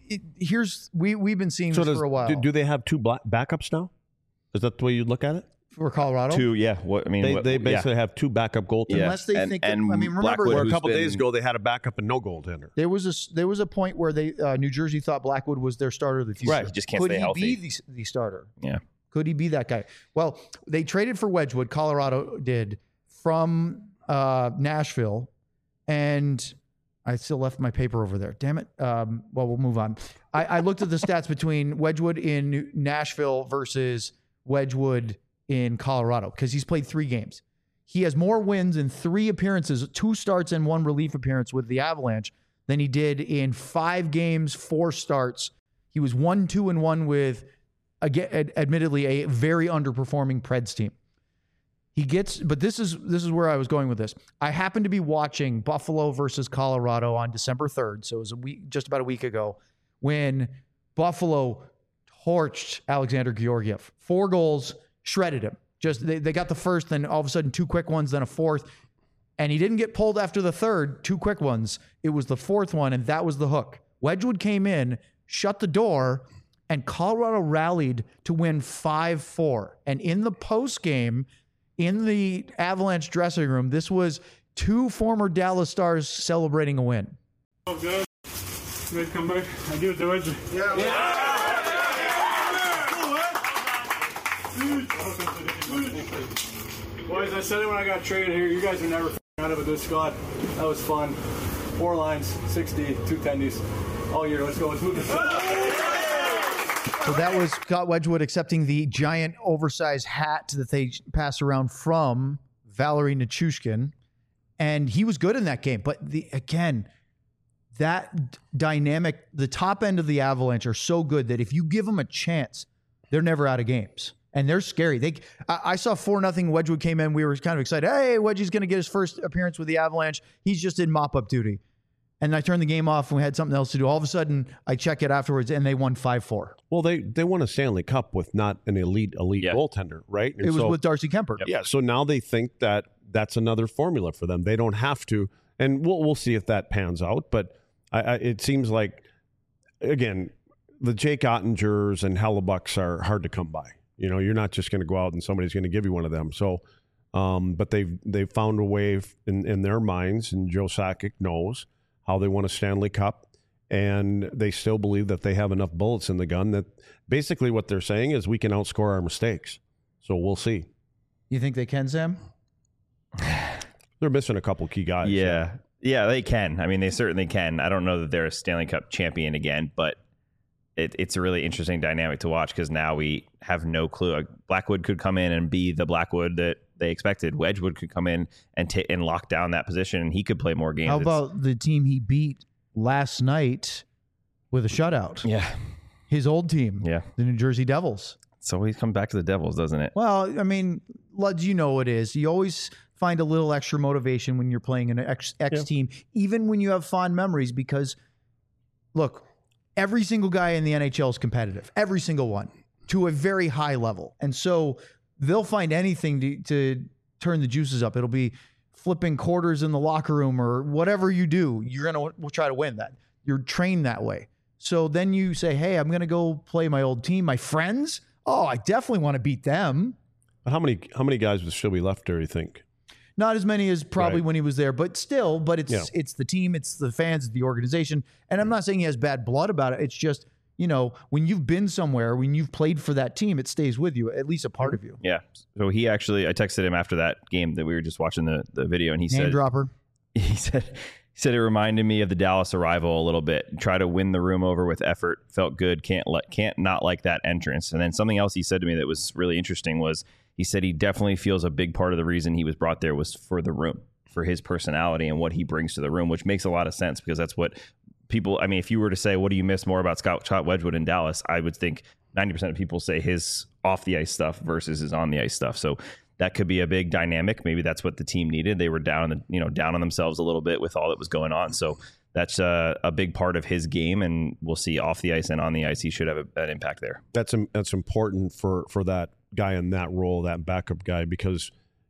We've been seeing this for a while. Do they have 2 backups now? Is that the way you look at it? For Colorado? 2, yeah. They basically have 2 backup goaltenders. Yeah. Unless they think. Remember Blackwood, where a couple days ago they had a backup and no goaltender. There was a point where New Jersey thought Blackwood was their starter of the future. Right, he just can't stay healthy. Could he be the starter? Yeah. Could he be that guy? Well, they traded for Wedgwood. Colorado did from Nashville, and I still left my paper over there. Damn it. Well, we'll move on. I looked at the stats between Wedgwood in Nashville versus Wedgwood in Colorado because he's played 3 games. He has more wins in 3 appearances, 2 starts and 1 relief appearance with the Avalanche than he did in 5 games, 4 starts. He was 1-2-1 with, again, admittedly, a very underperforming Preds team. But this is where I was going with this. I happened to be watching Buffalo versus Colorado on December 3rd, so it was just about a week ago, when Buffalo torched Alexander Georgiev. 4 goals, shredded him. Just they got the first, then all of a sudden 2 quick ones, then a fourth, and he didn't get pulled after the third. 2 quick ones. It was the fourth one, and that was the hook. Wedgwood came in, shut the door, and Colorado rallied to win 5-4. And in the post game, in the Avalanche dressing room, this was 2 former Dallas Stars celebrating a win. Oh, good. Ready to come back? I do it the way. Yeah. Boys, I said it when I got traded here. You guys are never out of a good squad. That was fun. 4 lines, 60, 2 tendies all year. Let's go. Let's move this. So that was Scott Wedgwood accepting the giant oversized hat that they passed around from Valerie Nichushkin. And he was good in that game. But that dynamic, the top end of the Avalanche are so good that if you give them a chance, they're never out of games. And they're scary. I saw 4-0 Wedgwood came in. We were kind of excited. Hey, Wedgie's going to get his first appearance with the Avalanche. He's just in mop-up duty. And I turned the game off and we had something else to do. All of a sudden, I check it afterwards, and they won 5-4. Well, they won a Stanley Cup with not an elite goaltender, right? And it was with Darcy Kemper. Yeah, so now they think that that's another formula for them. They don't have to, and we'll see if that pans out. But it seems like, again, the Jake Ottingers and Hellebucks are hard to come by. You know, you're not just going to go out and somebody's going to give you one of them. So, but they've found a way in their minds, and Joe Sakic knows how they won a Stanley Cup, and they still believe that they have enough bullets in the gun that basically what they're saying is we can outscore our mistakes. So we'll see. You think they can, Sam? They're missing a couple key guys. Yeah, they can. I mean, they certainly can. I don't know that they're a Stanley Cup champion again, but it's a really interesting dynamic to watch because now we have no clue. Blackwood could come in and be the Blackwood that they expected. Wedgwood could come in and lock down that position, and he could play more games. How about the team he beat last night with a shutout? Yeah. His old team. Yeah. The New Jersey Devils. So always come back to the Devils, doesn't it? Well, I mean, Luds, you know it is. You always find a little extra motivation when you're playing an X team, even when you have fond memories, because, look, every single guy in the NHL is competitive. Every single one. To a very high level. And so they'll find anything to turn the juices up. It'll be flipping quarters in the locker room or whatever you do. You're going to try to win that. You're trained that way. So then you say, hey, I'm going to go play my old team, my friends. Oh, I definitely want to beat them. But how many guys would still be left there, you think? Not as many as probably Right. when he was there, but still, it's the team, it's the fans, it's the organization. And I'm not saying he has bad blood about it. It's just, you know, when you've been somewhere, when you've played for that team, it stays with you, at least a part of you. Yeah. So I texted him after that game that we were just watching the video, and he Name said, dropper. He said it reminded me of the Dallas arrival a little bit. Try to win the room over with effort. Felt good. Can't not like that entrance. And then something else he said to me that was really interesting was he said he definitely feels a big part of the reason he was brought there was for the room, for his personality and what he brings to the room, which makes a lot of sense because that's what people, I mean, if you were to say, what do you miss more about Scott Wedgwood in Dallas? I would think 90% of people say his off the ice stuff versus his on the ice stuff. So that could be a big dynamic. Maybe that's what the team needed. They were down on themselves a little bit with all that was going on. So that's a big part of his game, and we'll see off the ice and on the ice. He should have an impact there. That's important for that guy in that role, that backup guy, because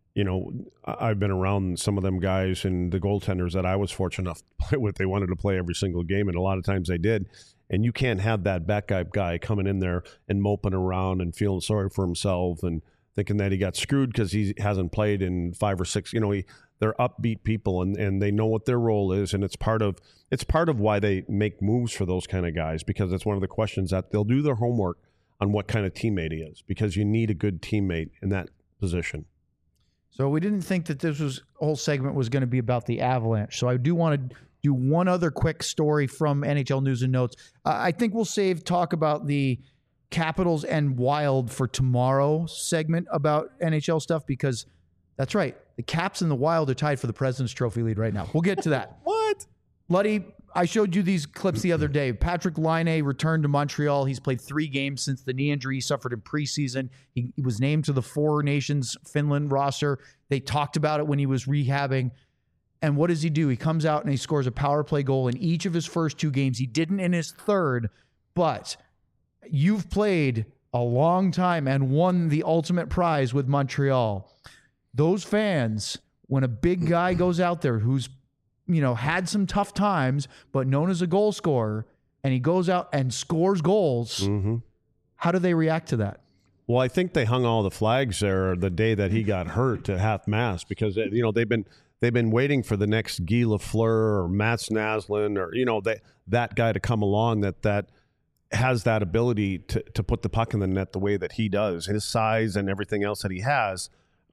I've been around some of them guys and the goaltenders that I was fortunate enough to play with. They wanted to play every single game, and a lot of times they did. And you can't have that backup guy coming in there and moping around and feeling sorry for himself and thinking that he got screwed because he hasn't played in 5 or 6. They're upbeat people, and they know what their role is, and it's part of why they make moves for those kind of guys, because it's one of the questions that they'll do their homework on what kind of teammate he is, because you need a good teammate in that position. So we didn't think that this whole segment was going to be about the Avalanche. So I do want to do one other quick story from NHL News and Notes. I think we'll save talk about the Capitals and Wild for tomorrow's segment about NHL stuff, because that's right. The Caps and the Wild are tied for the President's Trophy lead right now. We'll get to that. What? Luddy, I showed you these clips the other day. Patrick Laine returned to Montreal. He's played 3 games since the knee injury he suffered in preseason. He was named to the 4 Nations Finland roster. They talked about it when he was rehabbing. And what does he do? He comes out and he scores a power play goal in each of his first 2 games. He didn't in his third, but you've played a long time and won the ultimate prize with Montreal. Those fans, when a big guy goes out there who's had some tough times, but known as a goal scorer, and he goes out and scores goals, how do they react to that? Well, I think they hung all the flags there the day that he got hurt to half-mast, because they've been waiting for the next Guy Lafleur or Mats Naslund or that guy to come along that has that ability to put the puck in the net the way that he does, his size and everything else that he has.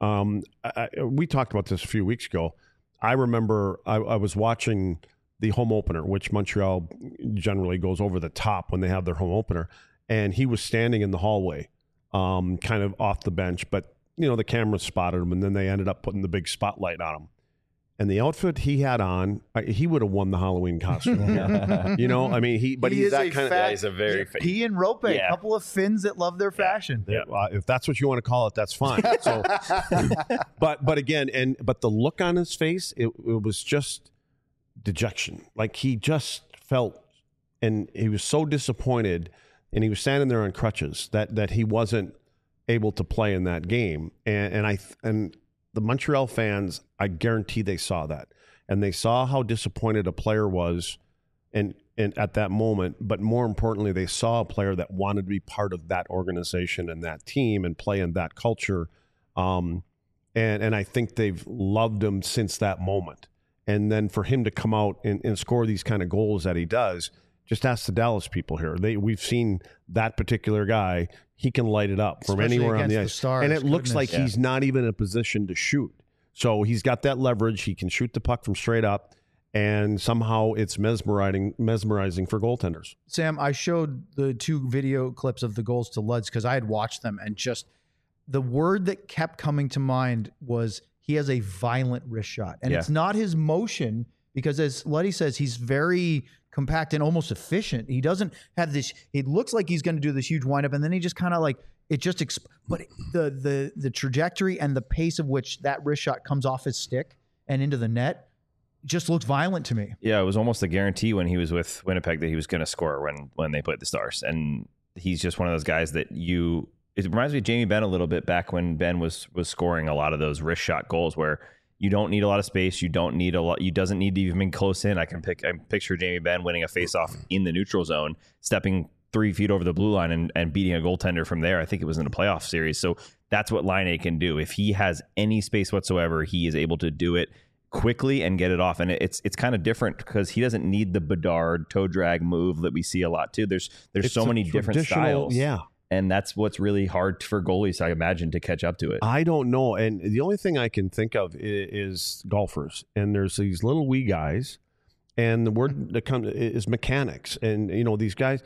We talked about this a few weeks ago. I remember I was watching the home opener, which Montreal generally goes over the top when they have their home opener, and he was standing in the hallway, kind of off the bench, but the camera spotted him, and then they ended up putting the big spotlight on him. And the outfit he had on, he would have won the Halloween costume. He's that kind of. He's a very he and Rope, a couple of Finns that love their fashion. Yeah, if that's what you want to call it, that's fine. So, but again, but the look on his face, it was just dejection. Like he just felt, and he was so disappointed, and he was standing there on crutches that he wasn't able to play in that game, and the Montreal fans, I guarantee they saw that. And they saw how disappointed a player was and at that moment. But more importantly, they saw a player that wanted to be part of that organization and that team and play in that culture. And I think they've loved him since that moment. And then for him to come out and score these kind of goals that he does, just ask the Dallas people here. We've seen that particular guy. He can light it up from Especially anywhere on the against ice. the Stars. And it looks Goodness. like he's not even in a position to shoot. So he's got that leverage. He can shoot the puck from straight up, and somehow it's mesmerizing for goaltenders. Sam, I showed the 2 video clips of the goals to Luds because I had watched them, and just the word that kept coming to mind was he has a violent wrist shot. And it's not his motion, because as Luddy says, he's very compact and almost efficient. He doesn't have this, it looks like he's going to do this huge windup, and then he just kind of like, it just, but the trajectory and the pace of which that wrist shot comes off his stick and into the net just looks violent to me. Yeah, it was almost a guarantee when he was with Winnipeg that he was going to score when they played the Stars. And he's just one of those guys that it reminds me of Jamie Benn a little bit back when Ben was scoring a lot of those wrist shot goals where you don't need a lot of space. You don't need a lot. You doesn't need to even be close in. I picture Jamie Benn winning a faceoff in the neutral zone, stepping 3 feet over the blue line and beating a goaltender from there. I think it was in a playoff series. So that's what Laine can do. If he has any space whatsoever, he is able to do it quickly and get it off. And it's kind of different because he doesn't need the Bedard toe drag move that we see a lot too. There's so many different styles. Yeah. And that's what's really hard for goalies, I imagine, to catch up to it. I don't know. And the only thing I can think of is golfers. And there's these little wee guys. And the word that comes is mechanics. And, these guys,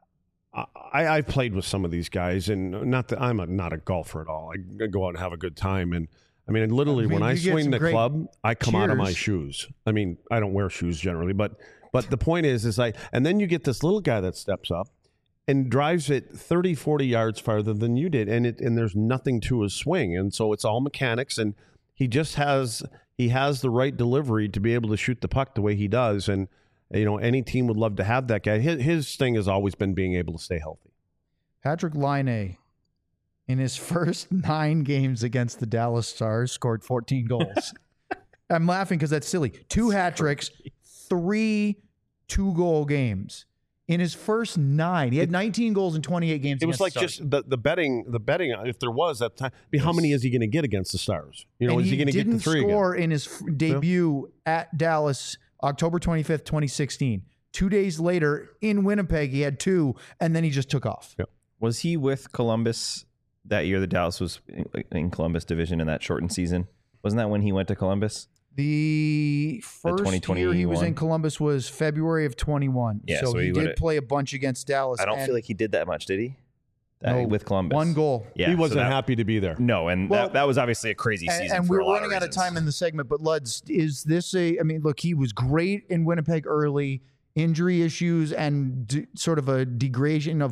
I've played with some of these guys. And not that I'm not a golfer at all. I go out and have a good time. And I mean, literally, when I you get swing some the great club, I come out of my cheers. shoes. I mean, I don't wear shoes generally, but the point is like, and then you get this little guy that steps up and drives it 30, 40 yards farther than you did, and there's nothing to his swing, and so it's all mechanics, and he has the right delivery to be able to shoot the puck the way he does, and any team would love to have that guy. His thing has always been being able to stay healthy. Patrick Laine, in his first 9 games against the Dallas Stars, scored 14 goals. I'm laughing because that's silly. 2 hat tricks, 3 2-goal games. In his first 9, he had 19 goals in 28 games. It was like against the Stars. just the betting. If there was at the time, how many is he going to get against the Stars? And is he going to get the 3 didn't score again? in his debut at Dallas, October 25th, 2016. 2 days later in Winnipeg, he had 2, and then he just took off. Yeah. Was he with Columbus that year that Dallas was in Columbus division in that shortened season? Wasn't that when he went to Columbus? The first year he was in Columbus was February of 21. Yeah, so so he he did would've- play a bunch against Dallas. I don't and feel like he did that much, did he? No, With Columbus. 1 goal. Yeah, He so wasn't that- happy to be there. No, and Well, that was obviously a crazy season. And for we're a lot running out of reasons. time in the segment, but Luds, is this I mean, look, he was great in Winnipeg early, injury issues and sort of a degrading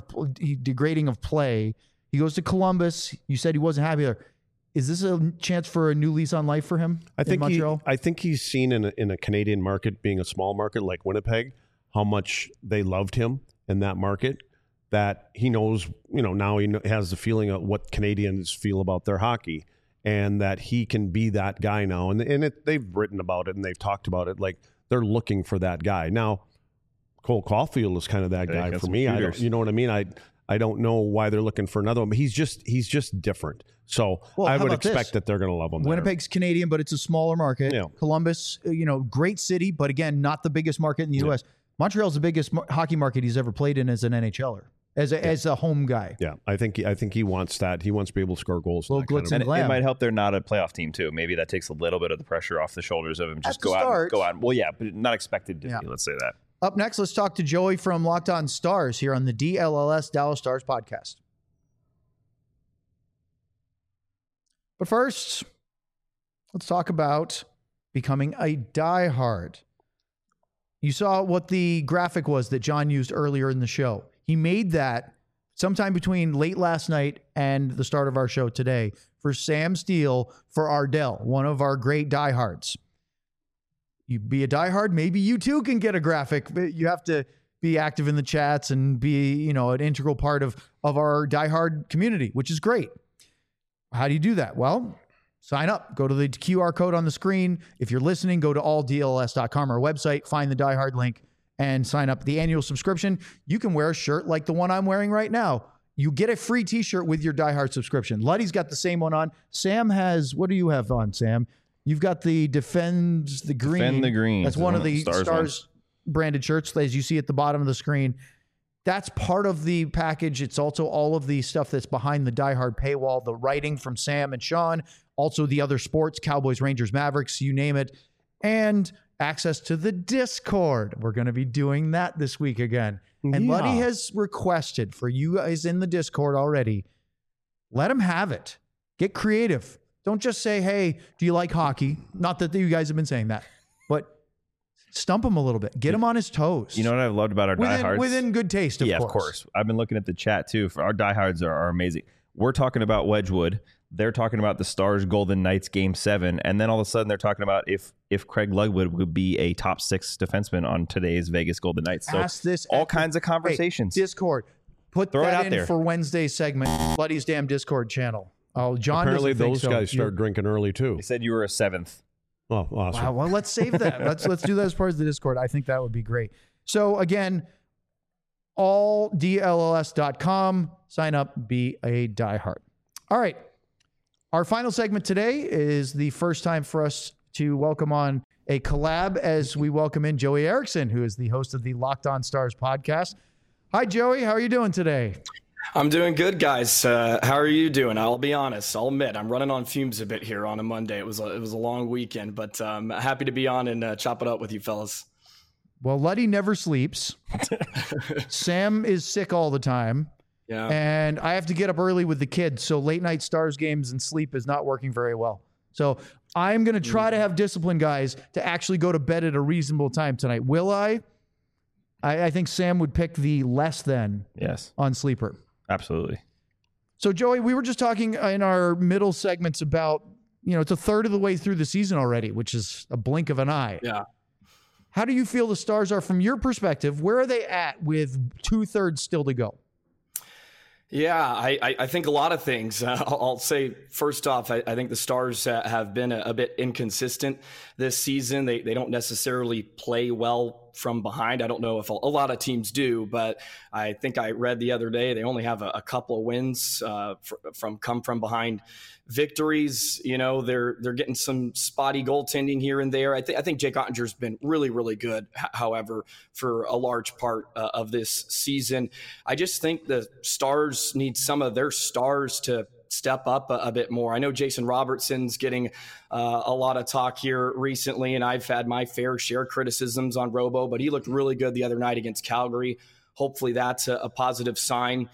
of play. He goes to Columbus. You said he wasn't happy there. Is this a chance for a new lease on life for him in Montreal? I think he's seen in a Canadian market, being a small market like Winnipeg, how much they loved him in that market. That he knows, now he has the feeling of what Canadians feel about their hockey, and that he can be that guy now. And they've written about it and they've talked about it. Like they're looking for that guy now. Cole Caulfield is kind of that Yeah, guy got for some me. shooters. You know what I mean? I don't know why they're looking for another one, but he's just different. So Well, I how would about this? expect that they're going to love him. there. Winnipeg's Canadian, but it's a smaller market. Yeah. Columbus, great city, but again, not the biggest market in the U.S. Montreal's the biggest hockey market he's ever played in as an NHLer, as a home guy. Yeah, I think he wants that. He wants to be able to score goals. Little and that kind glitz of- and And glam. it might help they're not a playoff team too. Maybe that takes a little bit of the pressure off the shoulders of him. Just At the go start. out. Well, yeah, but not expected to Yeah. be. Let's say that. Up next, let's talk to Joey from Locked On Stars here on the DLLS Dallas Stars podcast. But first, let's talk about becoming a diehard. You saw what the graphic was that John used earlier in the show. He made that sometime between late last night and the start of our show today for Sam Steele for Ardell, one of our great diehards. You be a diehard, maybe you too can get a graphic. But you have to be active in the chats and be, an integral part of our diehard community, which is great. How do you do that? Well, sign up. Go to the QR code on the screen. If you're listening, go to alldls.com, our website, find the diehard link, and sign up. The annual subscription, you can wear a shirt like the one I'm wearing right now. You get a free t-shirt with your diehard subscription. Luddy's got the same one on. Sam has, what do you have on, Sam? You've got the Defends the Green. Defend the Green. That's It's one of one of the the Stars Stars branded shirts, as you see at the bottom of the screen. That's part of the package. It's also all of the stuff that's behind the diehard paywall, the writing from Sam and Sean, also the other sports, Cowboys, Rangers, Mavericks, you name it, and access to the Discord. We're going to be doing that this week again. And Yeah. Luddy has requested for you guys in the Discord already, let him have it. Get creative. Don't just say, hey, do you like hockey? Not that you guys have been saying that, but stump him a little bit. Get him on his toes. You know what I've loved about our diehards? Within good taste, of course. I've been looking at the chat too. For our diehards are amazing. We're talking about Wedgwood. They're talking about the Stars Golden Knights Game 7, and then all of a sudden they're talking about if Craig Ludwig would be a top 6 defenseman on today's Vegas Golden Knights. So Ask this all at kinds of conversations. Hey, Discord. Put Throw it that out in there. for Wednesday's segment. Buddy's damn Discord channel. Oh, John Apparently, doesn't think those so. guys start drinking early too. They said you were a 7th. Oh, awesome! Wow, well, let's save that. Let's do that as part of the Discord. I think that would be great. So again, alldls.com. Sign up, be a diehard. All right. Our final segment today is the first time for us to welcome on a collab as we welcome in Joey Erickson, who is the host of the Locked On Stars podcast. Hi, Joey. How are you doing today? I'm doing good, guys. How are you doing? I'll be honest. I'll admit I'm running on fumes a bit here on a Monday. It was a long weekend, but happy to be on and chop it up with you fellas. Well, Luddy never sleeps. Sam is sick all the time. Yeah. And I have to get up early with the kids, so late night Stars games and sleep is not working very well. So I'm going to try to have discipline, guys, to actually go to bed at a reasonable time tonight. Will I? I think Sam would pick the less than on Sleeper. Absolutely. So, Joey, we were just talking in our middle segments about, it's a third of the way through the season already, which is a blink of an eye. Yeah. How do you feel the Stars are from your perspective? Where are they at with 2/3 still to go? Yeah, I think a lot of things. I'll say first off, I think the Stars have been a bit inconsistent this season. They don't necessarily play well from behind. I don't know if a lot of teams do, but I think I read the other day they only have a couple of wins come from behind victories. They're getting some spotty goaltending here and there. I think Jake Ottinger's been really, really good, however, for a large part of this season. I just think the Stars need some of their stars to step up a bit more. I know Jason Robertson's getting a lot of talk here recently, and I've had my fair share of criticisms on Robo, but he looked really good the other night against Calgary. Hopefully that's a positive sign.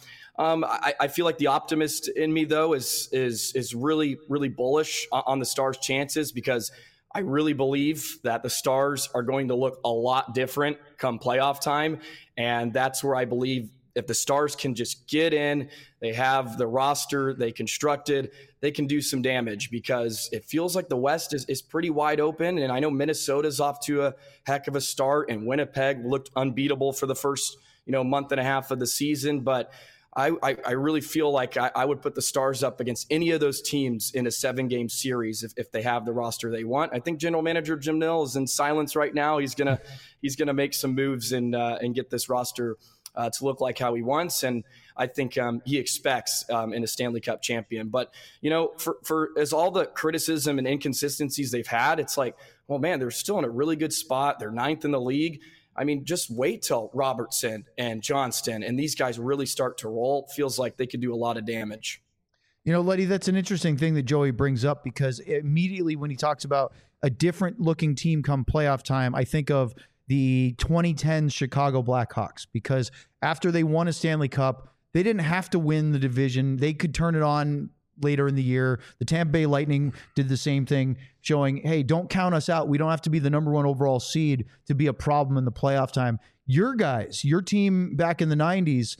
I feel like the optimist in me, though, is really, really bullish on the Stars' chances, because I really believe that the Stars are going to look a lot different come playoff time. And that's where I believe if the Stars can just get in, they have the roster they constructed, they can do some damage, because it feels like the West is pretty wide open. And I know Minnesota's off to a heck of a start, and Winnipeg looked unbeatable for the first month and a half of the season. But I really feel like I would put the Stars up against any of those teams in a 7-game series if they have the roster they want. I think General Manager Jim Nill is in silence right now. He's gonna make some moves and get this roster to look like how he wants, and I think he expects in a Stanley Cup champion. But for as all the criticism and inconsistencies they've had, it's like, well, man, they're still in a really good spot. They're 9th in the league. I mean, just wait till Robertson and Johnston and these guys really start to roll. It feels like they could do a lot of damage. Letty, that's an interesting thing that Joey brings up, because immediately when he talks about a different looking team come playoff time, I think of the 2010 Chicago Blackhawks, because after they won a Stanley Cup, they didn't have to win the division. They could turn it on later in the year. The Tampa Bay Lightning did the same thing, showing, hey, don't count us out. We don't have to be the number 1 overall seed to be a problem in the playoff time. Your guys, your team back in the 90s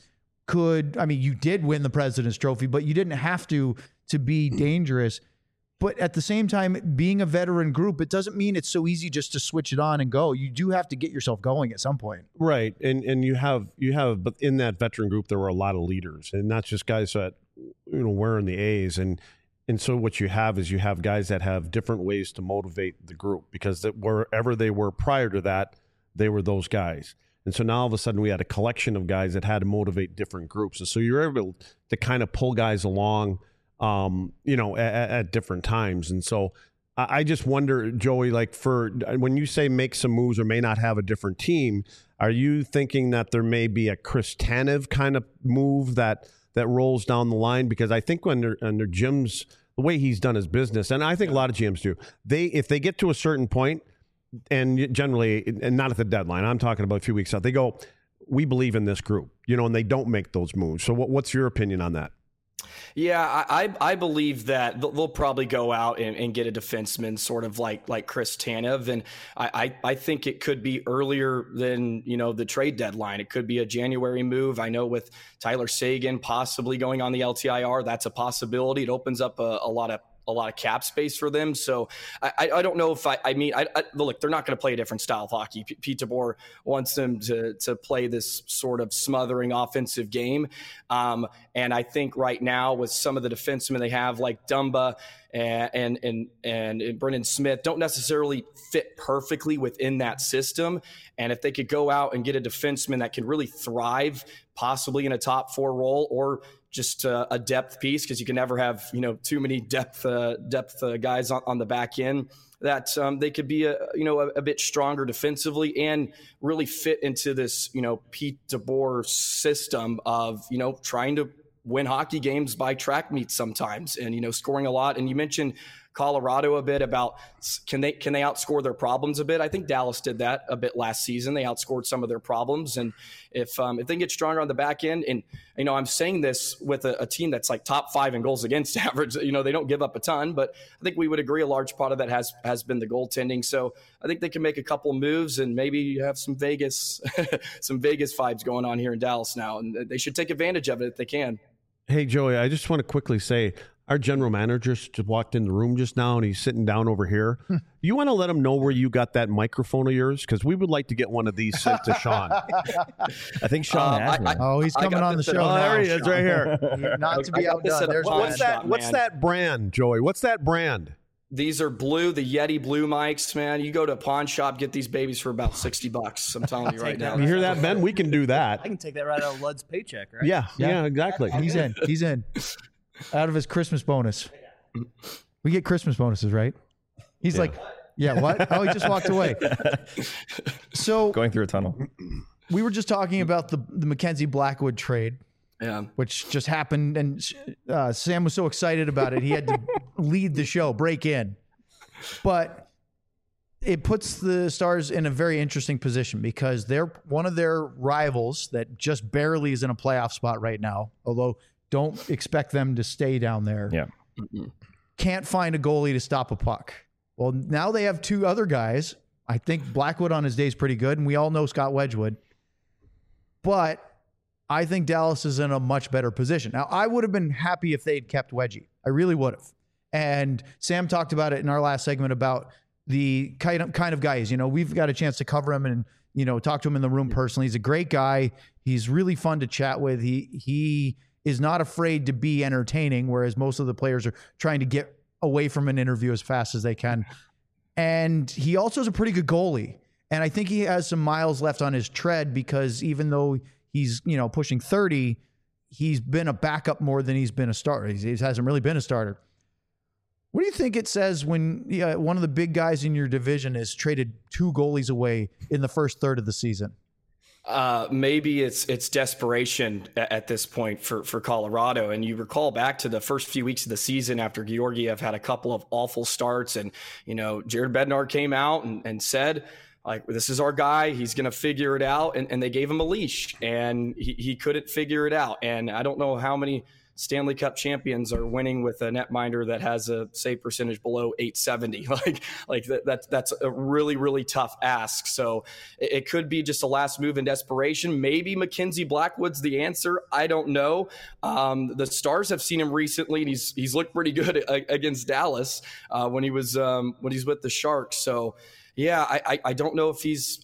you did win the President's Trophy, but you didn't have to be dangerous. But at the same time, being a veteran group, it doesn't mean it's so easy just to switch it on and go. You do have to get yourself going at some point. Right. And you have, but in that veteran group, there were a lot of leaders, and not just guys that, wearing the A's. And so what you have is you have guys that have different ways to motivate the group, because wherever they were prior to that, they were those guys. And so now all of a sudden we had a collection of guys that had to motivate different groups. And so you're able to kind of pull guys along, at different times. And so I just wonder, Joey, like, for when you say make some moves or may not have a different team, are you thinking that there may be a Chris Tanev kind of move that rolls down the line? Because I think under Jim's, the way he's done his business, and I think a lot of GMs do, if they get to a certain point, and generally, and not at the deadline, I'm talking about a few weeks out, they go, we believe in this group, and they don't make those moves. So what's your opinion on that? Yeah, I believe that they'll probably go out and get a defenseman sort of like Chris Tanev. And I think it could be earlier than, the trade deadline. It could be a January move. I know with Tyler Seguin possibly going on the LTIR, that's a possibility. It opens up a lot of cap space for them. So I don't know if look, they're not going to play a different style of hockey. Pete DeBoer wants them to play this sort of smothering offensive game. And I think right now with some of the defensemen they have, like Dumba and Brendan Smith, don't necessarily fit perfectly within that system. And if they could go out and get a defenseman that can really thrive, possibly in a top 4 role, or just a depth piece, because you can never have too many depth guys on the back end, that they could be a bit stronger defensively and really fit into this Pete DeBoer system of trying to win hockey games by track meets sometimes, and scoring a lot. And you mentioned Colorado a bit about can they outscore their problems a bit. I think Dallas did that a bit last season. They outscored some of their problems, and if they get stronger on the back end, and I'm saying this with a team that's like top 5 in goals against average. They don't give up a ton, but I think we would agree a large part of that has been the goaltending. So I think they can make a couple of moves and maybe have some Vegas vibes going on here in Dallas now, and they should take advantage of it if they can. Hey, Joey, I just want to quickly say our general manager just walked in the room just now, and he's sitting down over here. You want to let him know where you got that microphone of yours? Because we would like to get one of these sent to Sean. I think Sean has one. He's coming on the show now. There he is, right here. Not to be outdone. There's What's that brand, Joey? What's that brand? These are blue, the Yeti blue mics, man. You go to a pawn shop, get these babies for about $60. I'm telling you right now. You hear that, Ben? We can do that. I can take that right out of Lud's paycheck, right? Yeah, exactly. He's in. Out of his Christmas bonus. We get Christmas bonuses, right? He's like, yeah, what? Oh, he just walked away. So Going through a tunnel. We were just talking about the Mackenzie Blackwood trade. Yeah. Which just happened, and Sam was so excited about it, he had to lead the show, break in. But it puts the Stars in a very interesting position because they're one of their rivals that just barely is in a playoff spot right now, although don't expect them to stay down there. Yeah. Can't find a goalie to stop a puck. Well, now they have 2 other guys. I think Blackwood on his day is pretty good, and we all know Scott Wedgwood. But I think Dallas is in a much better position. Now, I would have been happy if they'd kept Wedgie. I really would have. And Sam talked about it in our last segment about the kind of guys. We've got a chance to cover him and, talk to him in the room personally. He's a great guy. He's really fun to chat with. He is not afraid to be entertaining, whereas most of the players are trying to get away from an interview as fast as they can. And he also is a pretty good goalie. And I think he has some miles left on his tread because even though he's, pushing 30, he's been a backup more than he's been a starter. He hasn't really been a starter. What do you think it says when one of the big guys in your division is traded 2 goalies away in the first third of the season? Maybe it's desperation at this point for Colorado. And you recall back to the first few weeks of the season after Georgiev had a couple of awful starts, and Jared Bednar came out and said, like, this is our guy. He's going to figure it out. And they gave him a leash, and he couldn't figure it out. And I don't know how many Stanley Cup champions are winning with a netminder that has a save percentage below .870. That's a really, really tough ask. So it could be just a last move in desperation. Maybe Mackenzie Blackwood's the answer. I don't know. The Stars have seen him recently, and he's looked pretty good against Dallas when he's with the Sharks. So yeah, I don't know if he's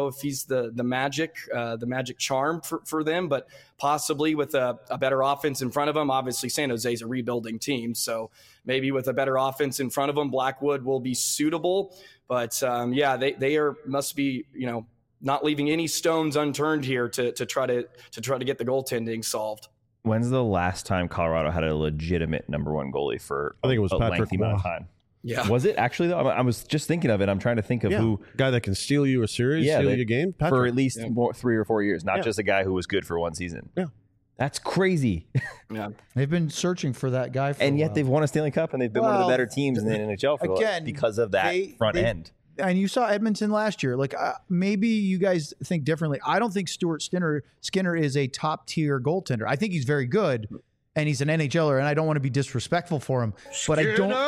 the magic charm for them, but possibly with a better offense in front of him. Obviously, San Jose's a rebuilding team, so maybe with a better offense in front of them, Blackwood will be suitable. But they must be not leaving any stones unturned here to try to get the goaltending solved. When's the last time Colorado had a legitimate number 1 goalie for I think it was a Patrick lengthy amount of Waugh. time? Yeah. Was it actually though? I was just thinking of it. I'm trying to think of who guy that can steal you a series, steal you a game for Patrick. at least 3 or 4 years, not just a guy who was good for 1 season. Yeah. That's crazy. Yeah. They've been searching for that guy for and a yet while. they've won a Stanley Cup, and they've been one of the better teams in the NHL because of that front end. And you saw Edmonton last year. Maybe you guys think differently. I don't think Stuart Skinner is a top tier goaltender. I think he's very good, and he's an NHLer, and I don't want to be disrespectful for him. But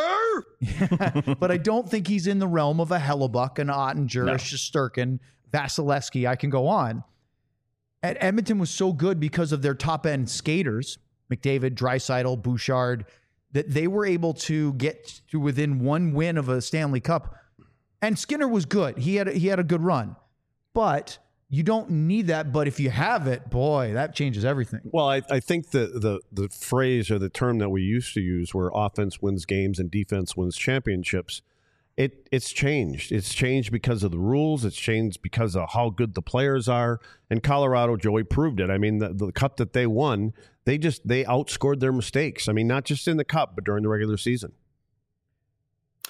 I don't think he's in the realm of a Hellebuck, an Ottinger, a Shesterkin, Vasilevsky. I can go on. And Edmonton was so good because of their top end skaters, McDavid, Draisaitl, Bouchard, that they were able to get to within 1 win of a Stanley Cup. And Skinner was good. He had a good run. But you don't need that. But if you have it, boy, that changes everything. Well, I think the phrase or the term that we used to use where offense wins games and defense wins championships, it's changed. It's changed because of the rules. It's changed because of how good the players are. And Colorado, Joey, proved it. I mean, the cup that they won, they outscored their mistakes. I mean, not just in the cup, but during the regular season.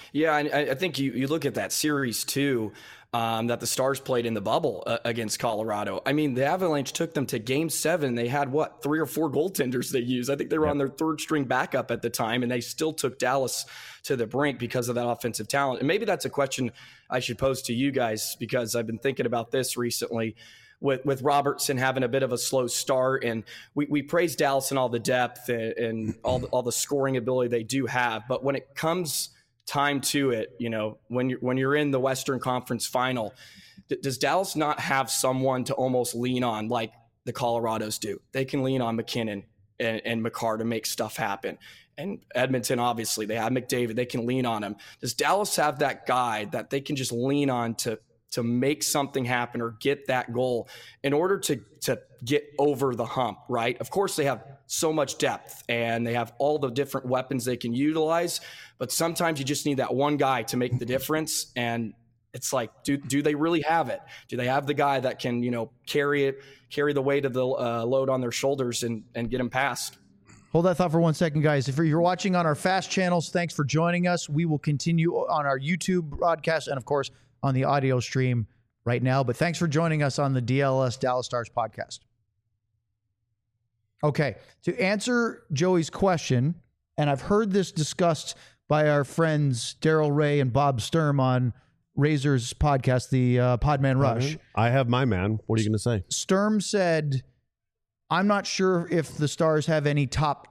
Yeah, and I think you look at that series too, that the Stars played in the bubble against Colorado. I mean, the Avalanche took them to Game 7. They had, 3 or 4 goaltenders they used. I think they were on their third string backup at the time, and they still took Dallas to the brink because of that offensive talent. And maybe that's a question I should pose to you guys, because I've been thinking about this recently. With Robertson having a bit of a slow start, and we praise Dallas and all the depth and all the scoring ability they do have, but when it comes time to it, when you're in the Western Conference Final, does Dallas not have someone to almost lean on like the Colorados do? They can lean on McKinnon and Makar to make stuff happen. And Edmonton, obviously, they have McDavid. They can lean on him. Does Dallas have that guy that they can just lean on to make something happen or get that goal in order to get over the hump, right? Of course, they have so much depth and they have all the different weapons they can utilize, but sometimes you just need that one guy to make the difference. And it's like, do they really have it? Do they have the guy that can, carry the weight of the load on their shoulders and get them past? Hold that thought for 1 second, guys. If you're watching on our FAST channels, thanks for joining us. We will continue on our YouTube broadcast and, of course, on the audio stream right now. But thanks for joining us on the DLS Dallas Stars podcast. Okay, to answer Joey's question, and I've heard this discussed by our friends Daryl Ray and Bob Sturm on Razor's podcast, the Podman Rush. I have my man. What are you going to say? Sturm said, I'm not sure if the Stars have any top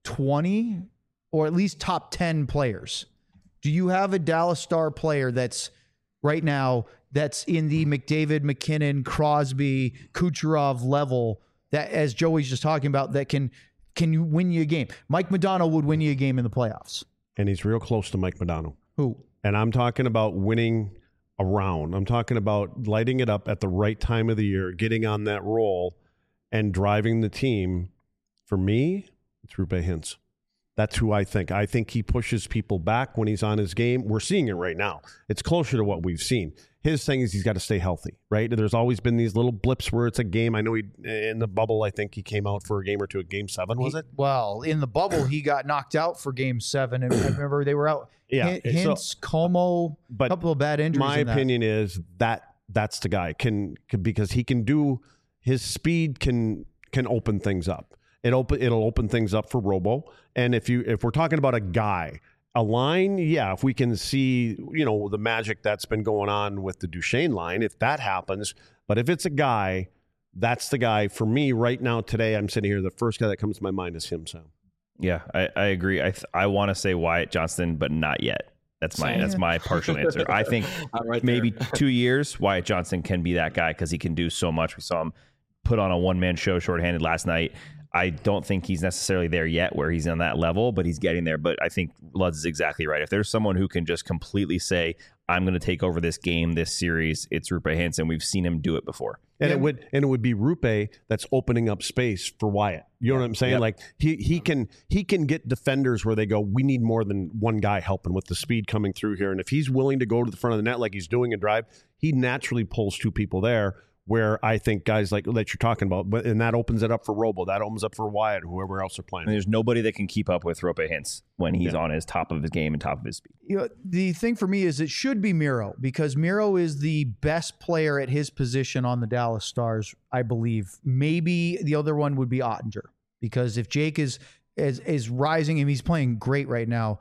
20 or at least top 10 players. Do you have a Dallas Star player that's right now that's in the McDavid, McKinnon, Crosby, Kucherov level that, as Joey's just talking about, that can you win you a game? Mike Modano would win you a game in the playoffs. And he's real close to Mike Modano. Who? And I'm talking about winning a round. I'm talking about lighting it up at the right time of the year, getting on that roll and driving the team. For me, it's Roope Hintz. That's who I think. I think he pushes people back when he's on his game. We're seeing it right now. It's closer to what we've seen. His thing is he's got to stay healthy, right? There's always been these little blips where it's a game. I know in the bubble, I think he came out for a game or two at Game 7, was it? Well, in the bubble, he got knocked out for Game 7. And I remember they were out. Yeah. Hintz, Como, a couple of bad injuries. My opinion is that's the guy because he can do, his speed can open things up. It'll open things up for Robo. And if we're talking about a guy, a line, yeah, if we can see, the magic that's been going on with the Duchesne line, if that happens, but if it's a guy, that's the guy for me right now today. I'm sitting here. The first guy that comes to my mind is him, Sam. Yeah, I agree. I want to say Wyatt Johnston, but not yet. That's my partial answer. I think maybe 2 years, Wyatt Johnston can be that guy because he can do so much. We saw him put on a one-man show shorthanded last night. I don't think he's necessarily there yet where he's on that level, but he's getting there. But I think Lutz is exactly right. If there's someone who can just completely say, I'm going to take over this game, this series, it's Roope Hintz, and we've seen him do it before. And it would be Roope that's opening up space for Wyatt. You know what I'm saying? Yep. Like he can get defenders where they go, we need more than one guy helping with the speed coming through here. And if he's willing to go to the front of the net like he's doing a drive, he naturally pulls two people there. Where I think guys like that you're talking about, and that opens it up for Robo, that opens up for Wyatt, whoever else are playing. And there's nobody that can keep up with Roope Hintz when he's on his top of his game and top of his speed. The thing for me is it should be Miro, because Miro is the best player at his position on the Dallas Stars, I believe. Maybe the other one would be Ottinger, because if Jake is rising and he's playing great right now,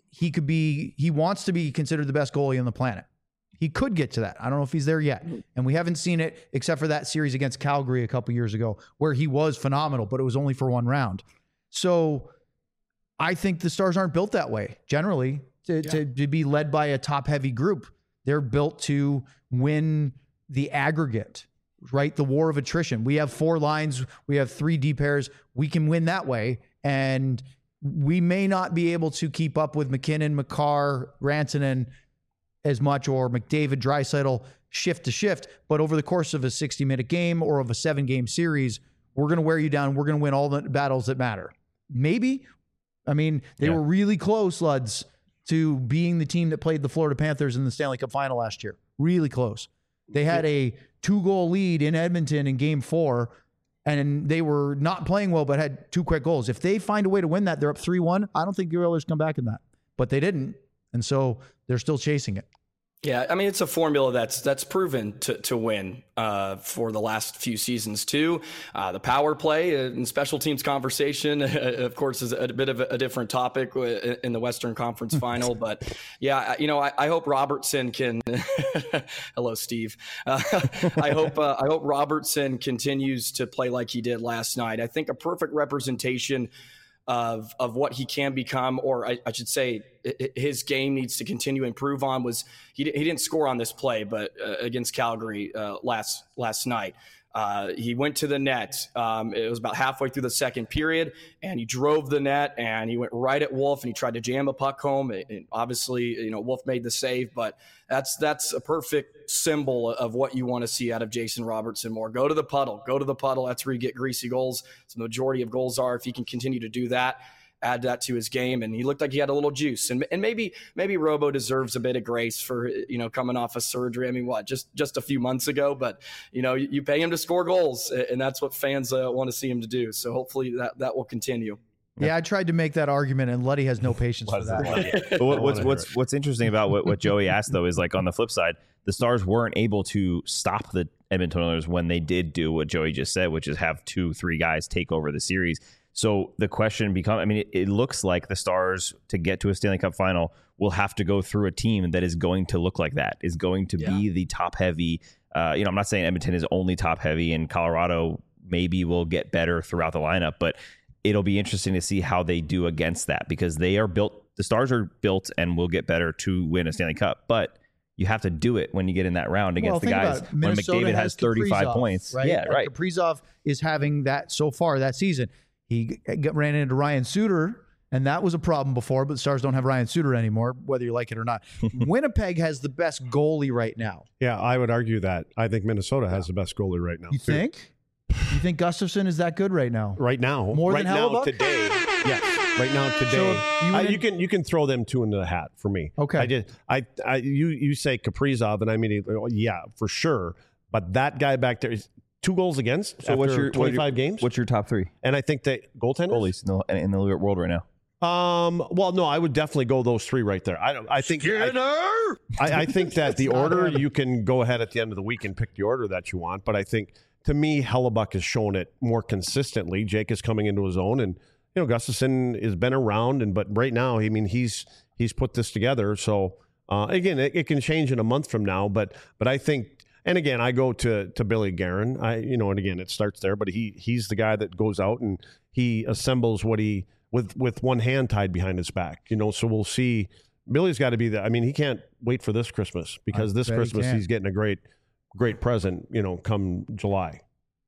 he wants to be considered the best goalie on the planet. He could get to that. I don't know if he's there yet. And we haven't seen it except for that series against Calgary a couple years ago where he was phenomenal, but it was only for one round. So I think the Stars aren't built that way generally to be led by a top-heavy group. They're built to win the aggregate, right? The war of attrition. We have 4 lines. We have 3 D pairs. We can win that way. And we may not be able to keep up with McKinnon, Makar, Rantanen as much, or McDavid, Draisaitl, shift to shift. But over the course of a 60-minute game or of a 7-game series, we're going to wear you down. We're going to win all the battles that matter. Maybe. I mean, they were really close, Luds, to being the team that played the Florida Panthers in the Stanley Cup final last year. Really close. They had a 2-goal lead in Edmonton in Game 4, and they were not playing well, but had 2 quick goals. If they find a way to win that, they're up 3-1. I don't think the Oilers come back in that. But they didn't. And so they're still chasing it. Yeah, I mean, it's a formula that's proven to win for the last few seasons too. The power play and special teams conversation, of course, is a bit of a different topic in the Western Conference Final. But yeah, I hope Robertson can. Hello, Steve. I hope Robertson continues to play like he did last night. I think a perfect representation of what he can become, or I should say his game needs to continue to improve on, was he didn't score on this play, but against Calgary last night. He went to the net. It was about halfway through the second period, and he drove the net, and he went right at Wolf, and he tried to jam a puck home. And obviously, Wolf made the save, but that's a perfect symbol of what you want to see out of Jason Robertson more. Go to the puddle. That's where you get greasy goals. So the majority of goals are. If he can continue to do that, add that to his game, and he looked like he had a little juice. And maybe Robo deserves a bit of grace for coming off of surgery. I mean, just a few months ago, but you pay him to score goals, and that's what fans want to see him to do. So hopefully that will continue. Yeah, I tried to make that argument, and Luddy has no patience for that. But what's interesting about what Joey asked, though, is like on the flip side, the Stars weren't able to stop the Edmonton Oilers when they did do what Joey just said, which is have 2-3 guys take over the series. So the question becomes, I mean, it looks like the Stars, to get to a Stanley Cup final, will have to go through a team that is going to look like that, is going to be the top heavy. I'm not saying Edmonton is only top heavy, and Colorado maybe will get better throughout the lineup, but it'll be interesting to see how they do against that, because they are built, the Stars are built and will get better to win a Stanley Cup. But you have to do it when you get in that round against the guys. When McDavid has 35 points. Right? Yeah, right. Kaprizov is having that so far that season. He ran into Ryan Suter, and that was a problem before, but the Stars don't have Ryan Suter anymore, whether you like it or not. Winnipeg has the best goalie right now. Yeah, I would argue that. I think Minnesota has the best goalie right now. You think? You think Gustafsson is that good right now? Right now. More right than now, Hellebuyck? today. Yes. Right now, today. So you can throw them two into the hat for me. Okay. You say Kaprizov, and I mean, yeah, for sure. But that guy back there is 2 goals against after 25 games. What's your top 3? And I think that goaltenders in the world right now. Well, no, I would definitely go those 3 right there. I think I think that the order, you can go ahead at the end of the week and pick the order that you want. But I think, to me, Hellebuyck has shown it more consistently. Jake is coming into his own, and Gustafsson has been around, but right now, I mean, he's put this together. So again, it can change in a month from now, but I think. And again, I go to Billy Guerin. And again, it starts there, but he's the guy that goes out and he assembles what he with one hand tied behind his back. So we'll see. Billy's got to be I mean, he can't wait for this Christmas, because this Christmas he's getting a great present. Come July.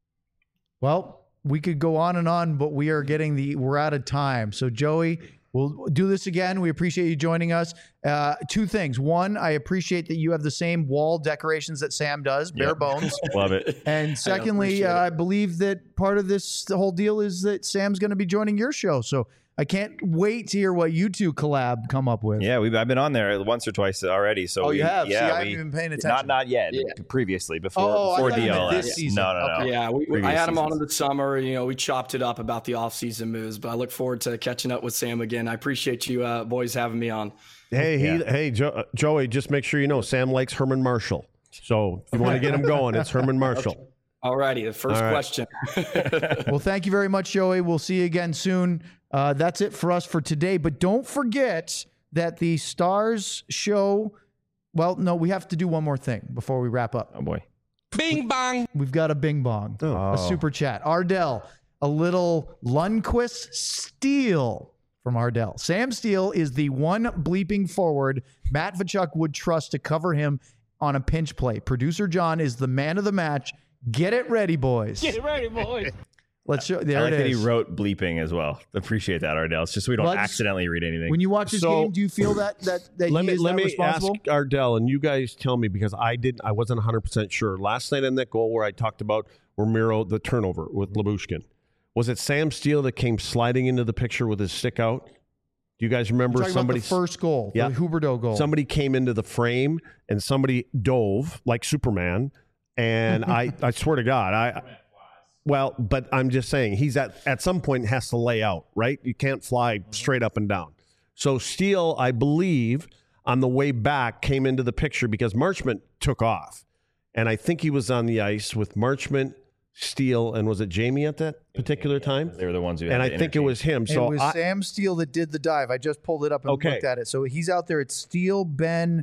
Well, we could go on and on, but we're out of time. So Joey, we'll do this again. We appreciate you joining us. 2 things. One, I appreciate that you have the same wall decorations that Sam does, bare bones. Love it. And secondly, I believe that part of the whole deal is that Sam's going to be joining your show. So I can't wait to hear what you two collab come up with. Yeah, I've been on there once or twice already. So you have? Yeah, See, I haven't even paying attention. Not yet. Yeah. Previously, before DLS. This season. No. Okay. Yeah, I had him on in the summer. We chopped it up about the off-season moves, but I look forward to catching up with Sam again. I appreciate you boys having me on. Hey, Joey, just make sure Sam likes Herman Marshall. So if you want to get him going, it's Herman Marshall. Okay. All righty, the first question. Well, thank you very much, Joey. We'll see you again soon. That's it for us for today. But don't forget that the Stars show, well, no, we have to do one more thing before we wrap up. Oh, boy. Bing bong. We've got a bing bong, a super chat. Ardell, a little Lundqvist steal from Ardell. Sam Steele is the one bleeping forward Matt Tkachuk would trust to cover him on a pinch play. Producer John is the man of the match. Get it ready, boys. Get it ready, boys. Let's show. There I like it that is. he wrote bleeping as well. Appreciate that, Ardell. It's just so we don't accidentally read anything. When you watch this game, do you feel that let he is me responsible? Ask Ardell, and you guys tell me, because I wasn't 100% sure. Last night in that goal where I talked about Ramiro, the turnover with Lyubushkin, was it Sam Steele that came sliding into the picture with his stick out? Do you guys remember somebody? The first goal, the Huberdeau goal. Somebody came into the frame and somebody dove like Superman, and I swear to God, but I'm just saying he's at some point has to lay out, right? You can't fly straight up and down. So Steele, I believe, on the way back came into the picture because Marchment took off. And I think he was on the ice with Marchment, Steele, and was it Jamie at that particular time? They were the ones who had and I the think it was him. So it was Sam Steele that did the dive. I just pulled it up and looked at it. So he's out there. It's Steele, Ben,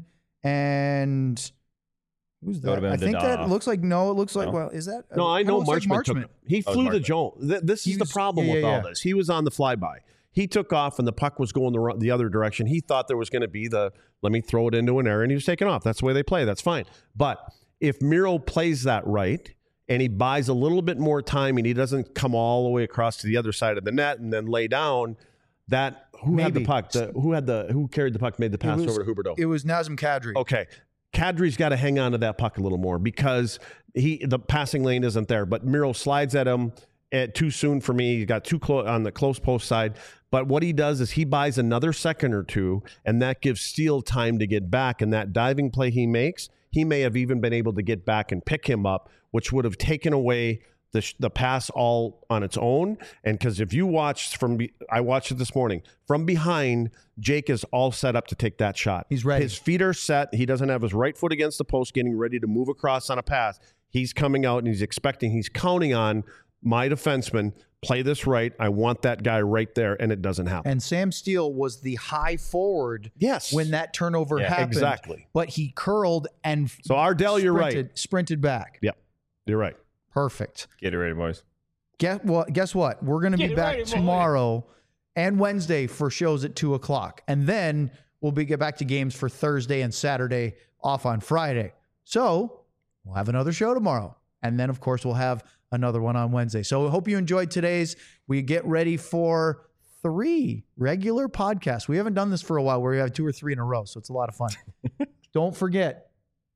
and who's that? I think that looks like, it looks like, well, is that? No, I know Marchment. Marchment took it. He flew the Jones. This is the problem with all this. He was on the flyby. He took off and the puck was going the other direction. He thought there was going to be let me throw it into an error, and he was taking off. That's the way they play. That's fine. But if Miro plays that right and he buys a little bit more time and he doesn't come all the way across to the other side of the net and then lay down, who had the puck? Who carried the puck, made the pass over to Huberdeau? It was Nazem Kadri. Okay. Kadri's got to hang on to that puck a little more because the passing lane isn't there. But Miro slides at him too soon for me. He got too close on the close post side. But what he does is he buys another second or two, and that gives Steele time to get back. And that diving play he makes, he may have even been able to get back and pick him up, which would have taken away the pass all on its own. And because if you watched I watched it this morning, from behind, Jake is all set up to take that shot. He's ready. His feet are set. He doesn't have his right foot against the post, getting ready to move across on a pass. He's coming out and he's counting on my defenseman, play this right. I want that guy right there, and it doesn't happen. And Sam Steele was the high forward when that turnover happened. Exactly. But he curled and so Ardell, you're right. Sprinted back. Yep, you're right. Perfect. Get it ready, boys. Guess what? We're going to be back tomorrow and Wednesday for shows at 2:00. And then we'll get back to games for Thursday and Saturday, off on Friday. So we'll have another show tomorrow. And then, of course, we'll have another one on Wednesday. So I hope you enjoyed today's. We get ready for 3 regular podcasts. We haven't done this for a while where we have 2 or 3 in a row. So it's a lot of fun. Don't forget,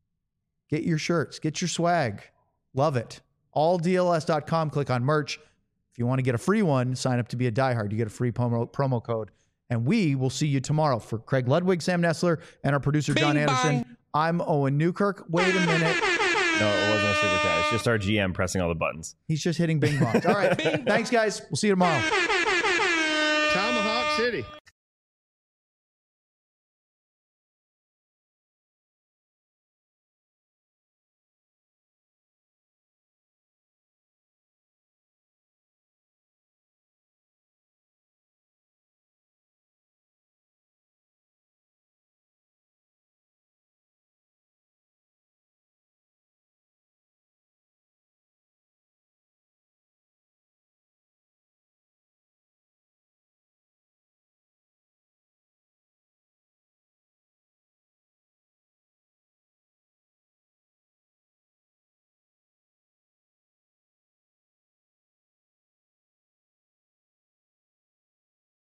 get your shirts, get your swag. Love it. AllDLS.com. Click on merch. If you want to get a free one, sign up to be a diehard. You get a free promo code. And we will see you tomorrow. For Craig Ludwig, Sam Nessler, and our producer, John Anderson, I'm Owen Newkirk. Wait a minute. No, it wasn't a super chat. It's just our GM pressing all the buttons. He's just hitting bing bongs. All right. Thanks, guys. We'll see you tomorrow. Tomahawk City.